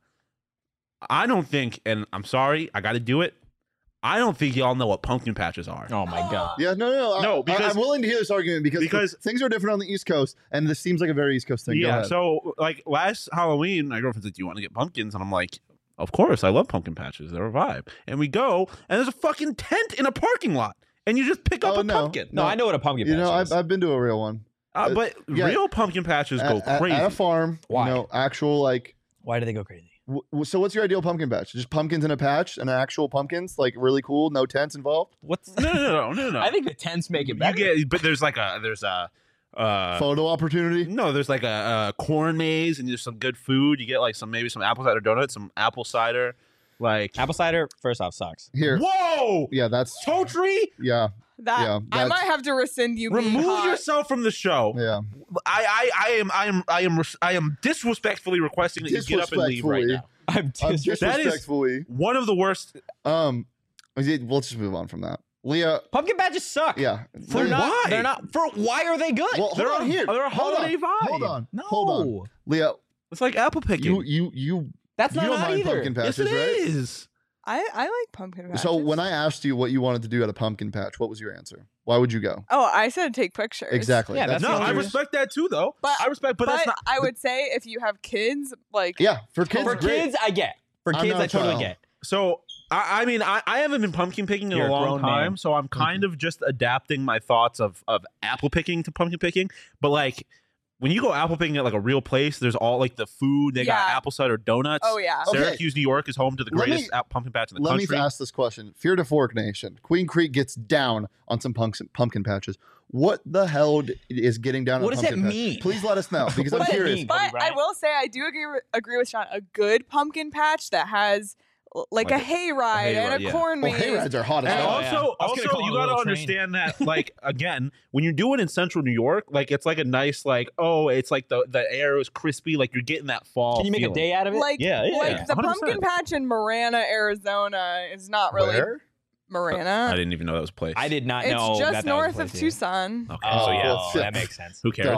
I don't think, and I'm sorry, I got to do it. I don't think y'all know what pumpkin patches are. Oh my god. Yeah, no, no, I- No, I, because- I'm willing to hear this argument because, because- things are different on the East Coast, and this seems like a very East Coast thing. Go Yeah. ahead. So, like last Halloween, my girlfriend said, "Do you want to get pumpkins?" And I'm like, "Of course, I love pumpkin patches. They're a vibe." And we go, and there's a fucking tent in a parking lot, and you just pick up Oh, a no. pumpkin. No, No. I know what a pumpkin you patch know, is. I've, I've been to a real one Uh, but yeah. real pumpkin patches go at, at- crazy. at a farm. Why? You know, actual like. Why do they go crazy? W- w- so, what's your ideal pumpkin patch? Just pumpkins in a patch and actual pumpkins, like really cool, no tents involved. What's no, no, no, no, no. I think the tents make it you better. get, but there's like a there's a. Uh, Photo opportunity. no, there's like a, a corn maze and there's some good food. You get like some maybe some apple cider donuts, some apple cider, like Apple cider, first off, sucks. Here. Whoa, Yeah, that's toe tree. yeah, That Yeah, I that's- might have to rescind you. being Remove hot. yourself from the show. yeah. I, I, I am, I am, I am, res- I am disrespectfully requesting that you get up and leave right Disrespectfully. now. I'm I'm disrespectful. That is- disrespectfully. One of the worst. Um, let's just move on from that. Leah, Pumpkin patches suck. yeah. For Leah- not, Why? They're not. For why are they good? Well, hold They're on a- here. they're a Hold holiday on. vibe. Hold on. no. Hold on. Leah, It's like apple picking. you you you That's you not don't hot mind either. pumpkin yes, patches, it right? is. I I like pumpkin patches. So when I asked you what you wanted to do at a pumpkin patch, what was your answer? Why would you go? oh, I said take pictures. Exactly. Yeah, that's No, the I only respect that too, though. But- I respect, but, But, that's not. I would say if you have kids, like Yeah, for kids, For great. kids, I get. For I'm kids, not I a totally child. get. So I, I mean, I, I haven't been pumpkin picking in You're a a long grown time, man. so I'm kind of just adapting my thoughts of of apple picking to pumpkin picking. But like when you go apple picking at like a real place, there's all like the food. They got Yeah. apple cider donuts. oh yeah. Okay. Syracuse, New York is home to the Let me- greatest ap- pumpkin patch in the Let country. me ask this question. Fear to Fork Nation. Queen Creek gets down on some punks, pumpkin patches. What the hell d- is getting down What on does that pumpkin patch? mean? Please let us know because I'm What does that curious. mean? But Kobe I Bryant. will say I do agree with, agree with Sean. A good pumpkin patch that has l- like, Like a a- hayride a and a hayride, yeah. corn Well, maze. hayrides are hot as And Oh, hell. yeah. also, I was gonna also call it you a got to little train. understand that, like, again, when you're doing it in central New York, like, it's like a nice, like, oh, it's like the, the air is crispy, like, you're getting that fall. Can you make feeling. a day out of it? Like, Yeah, yeah, like the one hundred percent. pumpkin patch in Marana, Arizona is not really Where? I Marana. didn't even know that was a place. I did not It's know. just that that north was a of place either. Tucson. Okay, Oh, so yeah, well, that makes sense. who cares?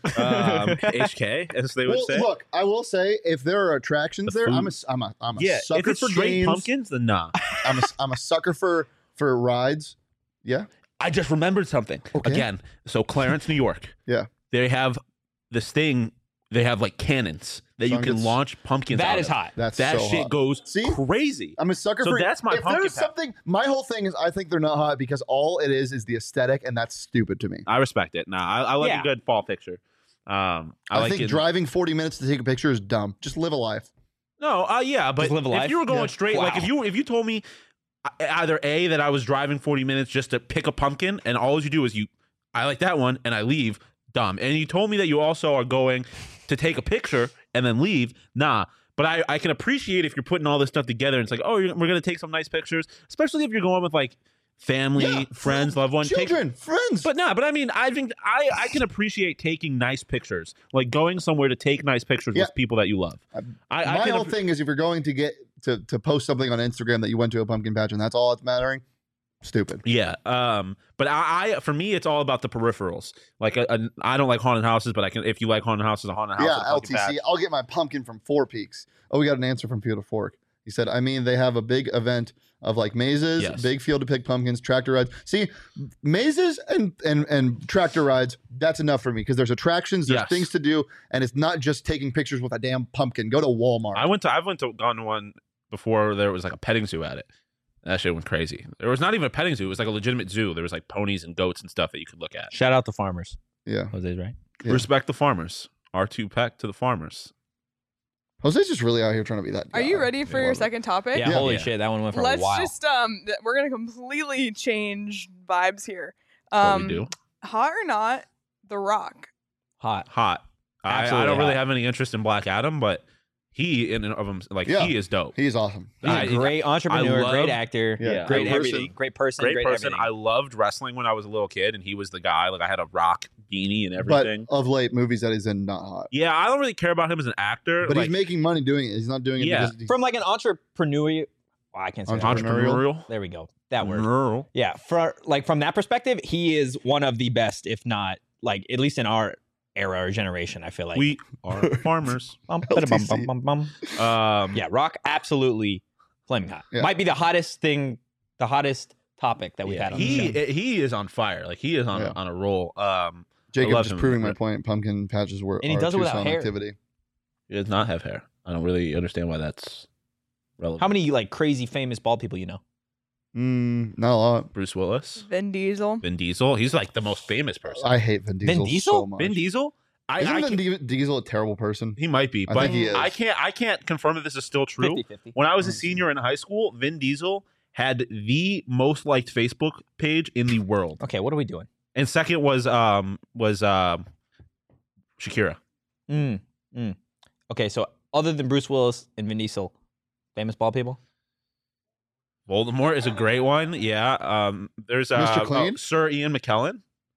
um, H K, as they would Well, say. look, I will say if there are attractions The there, food. I'm a, I'm a, I'm a yeah, sucker if it's for straight games. pumpkins, then nah. I'm a, I'm a sucker for for rides. Yeah. I just remembered something. Okay. Again, so Clarence, New York. Yeah. They have this thing, they have like cannons that you Sean can gets- launch pumpkins That out is of. hot. That's That so shit hot. goes See? crazy. I'm a sucker So for. that's my if pumpkin there's patch. something, my whole thing is I think they're not hot because all it is is the aesthetic, and that's stupid to me. I respect it. Nah, I, I like Yeah. a good fall picture. Um, I, I, like think it. driving forty minutes to take a picture is dumb. Just live a life. No, uh, yeah, but Just live a if life? you were going Yeah. straight, like Wow. if you if you told me uh, either A, that I was driving forty minutes just to pick a pumpkin, and all you do is you, I like that one, and I leave, dumb. And you told me that you also are going to take a picture and then leave, nah. But I, I can appreciate if you're putting all this stuff together and it's like, oh, you're, we're going to take some nice pictures, especially if you're going with like family, Yeah, friends, loved ones. Take- children, friends. But nah, but I mean, I think I, I can appreciate taking nice pictures, like going somewhere to take nice pictures Yeah. with people that you love. I- I, I my can whole appre- thing is if you're going to get to to post something on Instagram that you went to a pumpkin patch and that's all that's mattering, stupid. Yeah, um, but I, I, for me, it's all about the peripherals. Like, a, a, I don't like haunted houses, but I can. If you like haunted houses, a haunted house. Yeah, with a L pumpkin T C. patch. I'll get my pumpkin from Four Peaks. Oh, we got an answer from Peter Fork. He said, I mean, they have a big event of like mazes, Yes. big field to pick pumpkins, tractor rides. See, mazes and and and tractor rides, that's enough for me because there's attractions, there's Yes. things to do, and it's not just taking pictures with a damn pumpkin. Go to Walmart. I went to. I've went to gone to one before. There was like a petting zoo at it. That shit went crazy. There was not even a petting zoo. It was like a legitimate zoo. There was like ponies and goats and stuff that you could look at. Shout out to farmers. yeah. Jose's right. Yeah. Respect the farmers. R two Peck to the farmers. Jose's just really out here trying to be that guy. Are you ready for I your love it. second topic? Yeah, Yeah. holy Yeah. shit, that one went for Let's a while. just um th- we're gonna completely change vibes here. That's what Um we do. hot or not, The Rock. Hot. Hot. I, I Absolutely don't really hot. have any interest in Black Adam, but he in and of him, like Yeah. he is dope. He's awesome. He's I- a great entrepreneur, I great love- actor, Yeah. great Great person. everything, great person, Great, great, person. everything. I loved wrestling when I was a little kid, and he was the guy. Like I had a Rock beanie and But everything. of late, movies that he's in, not hot. Yeah, I don't really care about him as an actor. But like, he's making money doing it. He's not doing it Yeah. because he's, From like an entrepreneur Well, I can't say that. Entrepreneurial. Entrepreneurial. There we go. That word. Entrepreneurial. Yeah, for like from that perspective, he is one of the best, if not like at least in our era or generation. I feel like We are farmers. Bum, bada, bum, bum, bum, bum. Um, Yeah, Rock absolutely flaming hot. Yeah. Might be the hottest thing, the hottest topic that we've yeah, had on he the show. he is on fire. Like he is on Yeah. on a roll. Um, Jacob love just him. proving my point. Pumpkin patches were And he are does it without Tucson hair. activity. he does not have hair. I don't really understand why that's relevant. How many like crazy famous bald people you know? Mm, not a lot. Bruce Willis, Vin Diesel. Vin Diesel. He's like the most famous person. I hate Vin Diesel, Diesel? so much. Vin Diesel. I, Isn't I Vin can't- Di- Diesel a terrible person? he might be, I but think he is. I can't. I can't confirm that this is still true. fifty-fifty. When I was a Mm. senior in high school, Vin Diesel had the most liked Facebook page in the world, Okay, what are we doing? and second was um was um Shakira. Mm, mm. Okay, so other than Bruce Willis and Vin Diesel, famous bald people? Voldemort is a great one. Yeah. Um. There's uh, Mister oh, Clean? Sir Ian McKellen.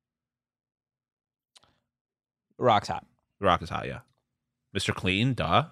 Rock's hot. The Rock is hot. Yeah. Mister Clean. Duh.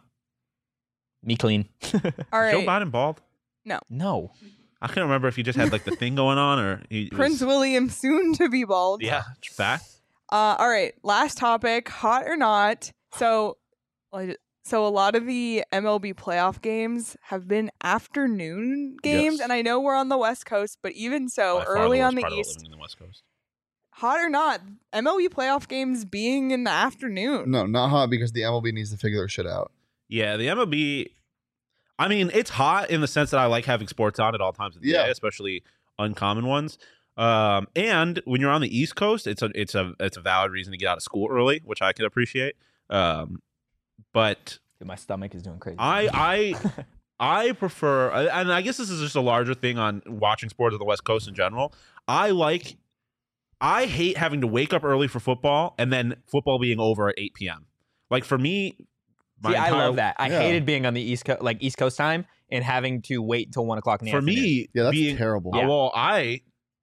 Me clean. All Is Joe right. Biden bald? No. I can't remember if he just had like the thing going on or he Prince was, William soon to be bald. Yeah. Fact. Uh, all right. Last topic, hot or not. So, like, so a lot of the M L B playoff games have been afternoon games, Yes. and I know we're on the West Coast, but even so, By far early worst on the part of East, living in the West Coast. hot or not, M L B playoff games being in the afternoon. No, not hot because the M L B needs to figure their shit out. Yeah, the M L B. I mean, it's hot in the sense that I like having sports on at all times of the Yeah. day, especially uncommon ones. Um, and when you're on the East Coast, it's a it's a it's a valid reason to get out of school early, which I can appreciate. Um, but Dude, my stomach is doing crazy. I I I prefer, and I guess this is just a larger thing on watching sports on the West Coast in general. I like, I hate having to wake up early for football and then football being over at eight p.m. Like for me, my See, I entire- love that. I Yeah. hated being on the East Coast, like East Coast time, and having to wait until one o'clock in the For afternoon. me, Yeah, that's being, terrible. Uh, Well, I,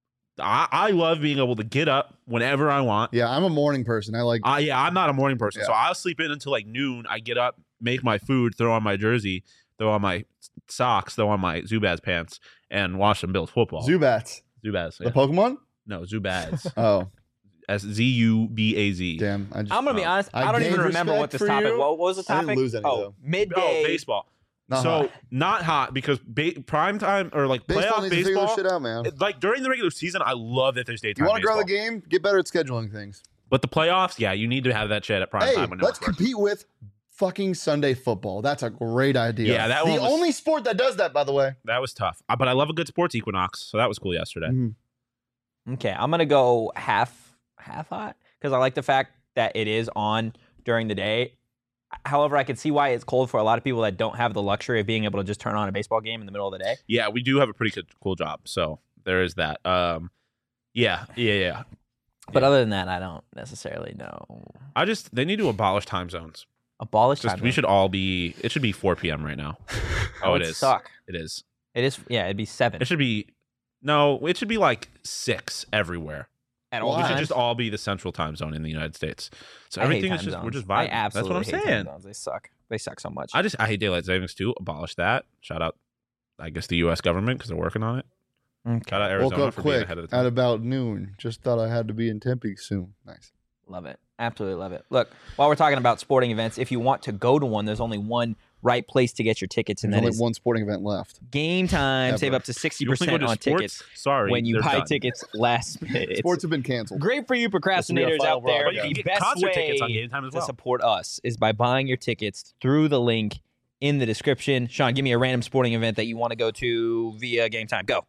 I I love being able to get up whenever I want. Yeah, I'm a morning person. I like. I yeah, I'm not a morning person, so Yeah. I'll sleep in until like noon. I get up, make my food, throw on my jersey, throw on my socks, throw on my Zubaz pants, and watch them build football. Zubats, Zubaz, the yeah. Pokemon. no Zubaz, Oh, S Z U B A Z. damn! I just I'm gonna be Oh. honest. I I don't even gained remember what respect this for topic. you. What, what was the I topic? didn't lose any, oh, though. midday. Oh, baseball. not so hot. not hot because ba- prime time or like Baseball playoff needs to figure baseball. this shit out, man. Like during the regular season, I love that there's daytime You want to grow baseball. the game? Get better at scheduling things. But the playoffs, yeah, you need to have that shit at prime Hey, time. When no let's one's working. compete with fucking Sunday football. That's a great idea. Yeah, that the one was- only sport that does that, by the way. That was tough, Uh, but I love a good sports equinox, so that was cool yesterday. Mhm. Okay, I'm gonna go half half hot because I like the fact that it is on during the day. However, I can see why it's cold for a lot of people that don't have the luxury of being able to just turn on a baseball game in the middle of the day. Yeah, we do have a pretty good, cool job, so there is that. Um, yeah, yeah, yeah. But Yeah. other than that, I don't necessarily know. I just they need to abolish time zones. Abolish Just time. we zone. should all be. It should be four p.m. right now. Oh, That it would is. Suck. It is. It is. Yeah, it'd be seven It should be. No, it should be like six everywhere. at Well, all We should times. just all be the central time zone in the United States. So I hate everything is time just we're zones. just I vibing. That's what absolutely I'm hate time saying. zones. They suck. They suck so much. I just I hate daylight savings too. Abolish that. Shout out, I guess the U S government because they're working on it. Okay. Shout out Woke Arizona up for being quick ahead of the at time. about noon. Just thought I had to be in Tempe soon. Nice. Love it. Absolutely love it. Look, while we're talking about sporting events, if you want to go to one, there's only one right place to get your tickets, and There's that only is one sporting event left. Game Time. Ever. Save up to sixty You only go percent to on sports? tickets Sorry, when you they're buy done. tickets last minute. It's Sports have been canceled. great for you procrastinators final out there. But you broadcast. can The get best concert way tickets on Game Time as to well. support us is by buying your tickets through the link in the description. Sean, give me a random sporting event that you want to go to via Game Time. Go.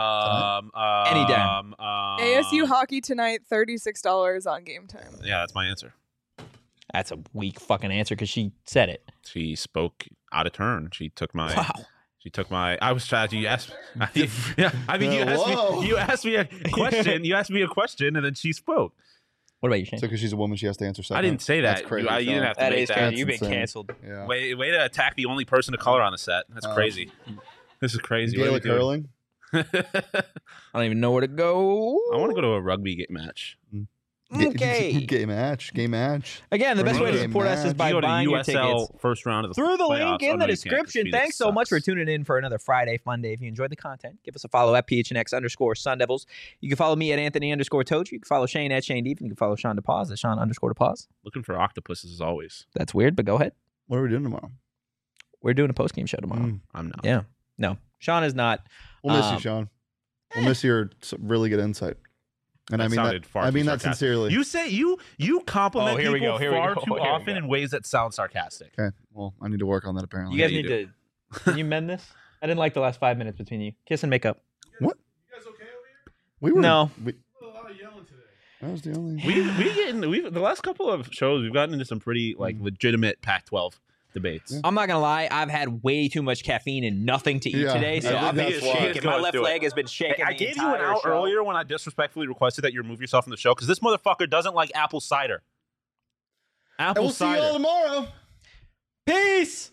Um, um, Any damn. Um, A S U hockey tonight, thirty-six dollars on Game Time. Yeah, that's my answer. That's a weak fucking answer because she said it. She spoke out of turn. She took my. Wow. She took my. I was trying to. You asked. I, yeah, I mean, you Uh, asked whoa. me. You asked me a question. You asked me a question, and then she spoke. What about you, Shane? So because she's a woman, she has to answer second. I didn't say that. That's crazy. You, I, you didn't Sean. have to That make is that. crazy. You've been insane. canceled. Yeah. Way, way to attack the only person of color on the set. That's Uh, crazy. This is crazy. What are we Gaelic doing? hurling. I don't even know where to go. I want to go to a rugby game match. Okay. Game match. Game match. Again, the best way to Game support us is match. by You go to buying your U S L tickets first round of the through the playoffs. link Oh, in no, the you can't, 'cause description. Phoenix Thanks so much for sucks. tuning in for another Friday Fun Day. If you enjoyed the content, give us a follow at P H N X underscore Sun Devils. You can follow me at Anthony underscore Toji. You can follow Shane at Shane Deep. And you can follow Sean DePause at Sean underscore DePause. Looking for octopuses as always. That's weird, but go ahead. What are we doing tomorrow? We're doing a post game show tomorrow. Mm. I'm not. Yeah. No, Sean is not. We'll miss Um, you, Sean. We'll miss your s- really good insight. And That I mean sounded that. far I too mean that sarcastic. sincerely. You say you you compliment Oh, here we people go, here we far go, too here we often go. in ways that sound sarcastic. Okay. Well, I need to work on that apparently. You guys you need do. to. Can you mend this? I didn't like the last five minutes between you. Kiss and make up. What? You guys okay over here? We were. No. We, A lot of yelling today. that was the only. We we get in, we the last couple of shows we've gotten into some pretty like legitimate Pac twelve debates. Yeah. I'm not gonna lie. I've had way too much caffeine and nothing to eat Yeah, today, I so think I'm that's why. shaking. Let's My go, left let's do it. leg has been shaking. I the gave you an entire out show. earlier when I disrespectfully requested that you remove yourself from the show because this motherfucker doesn't like apple cider. And Apple we'll see you cider. all tomorrow. Peace.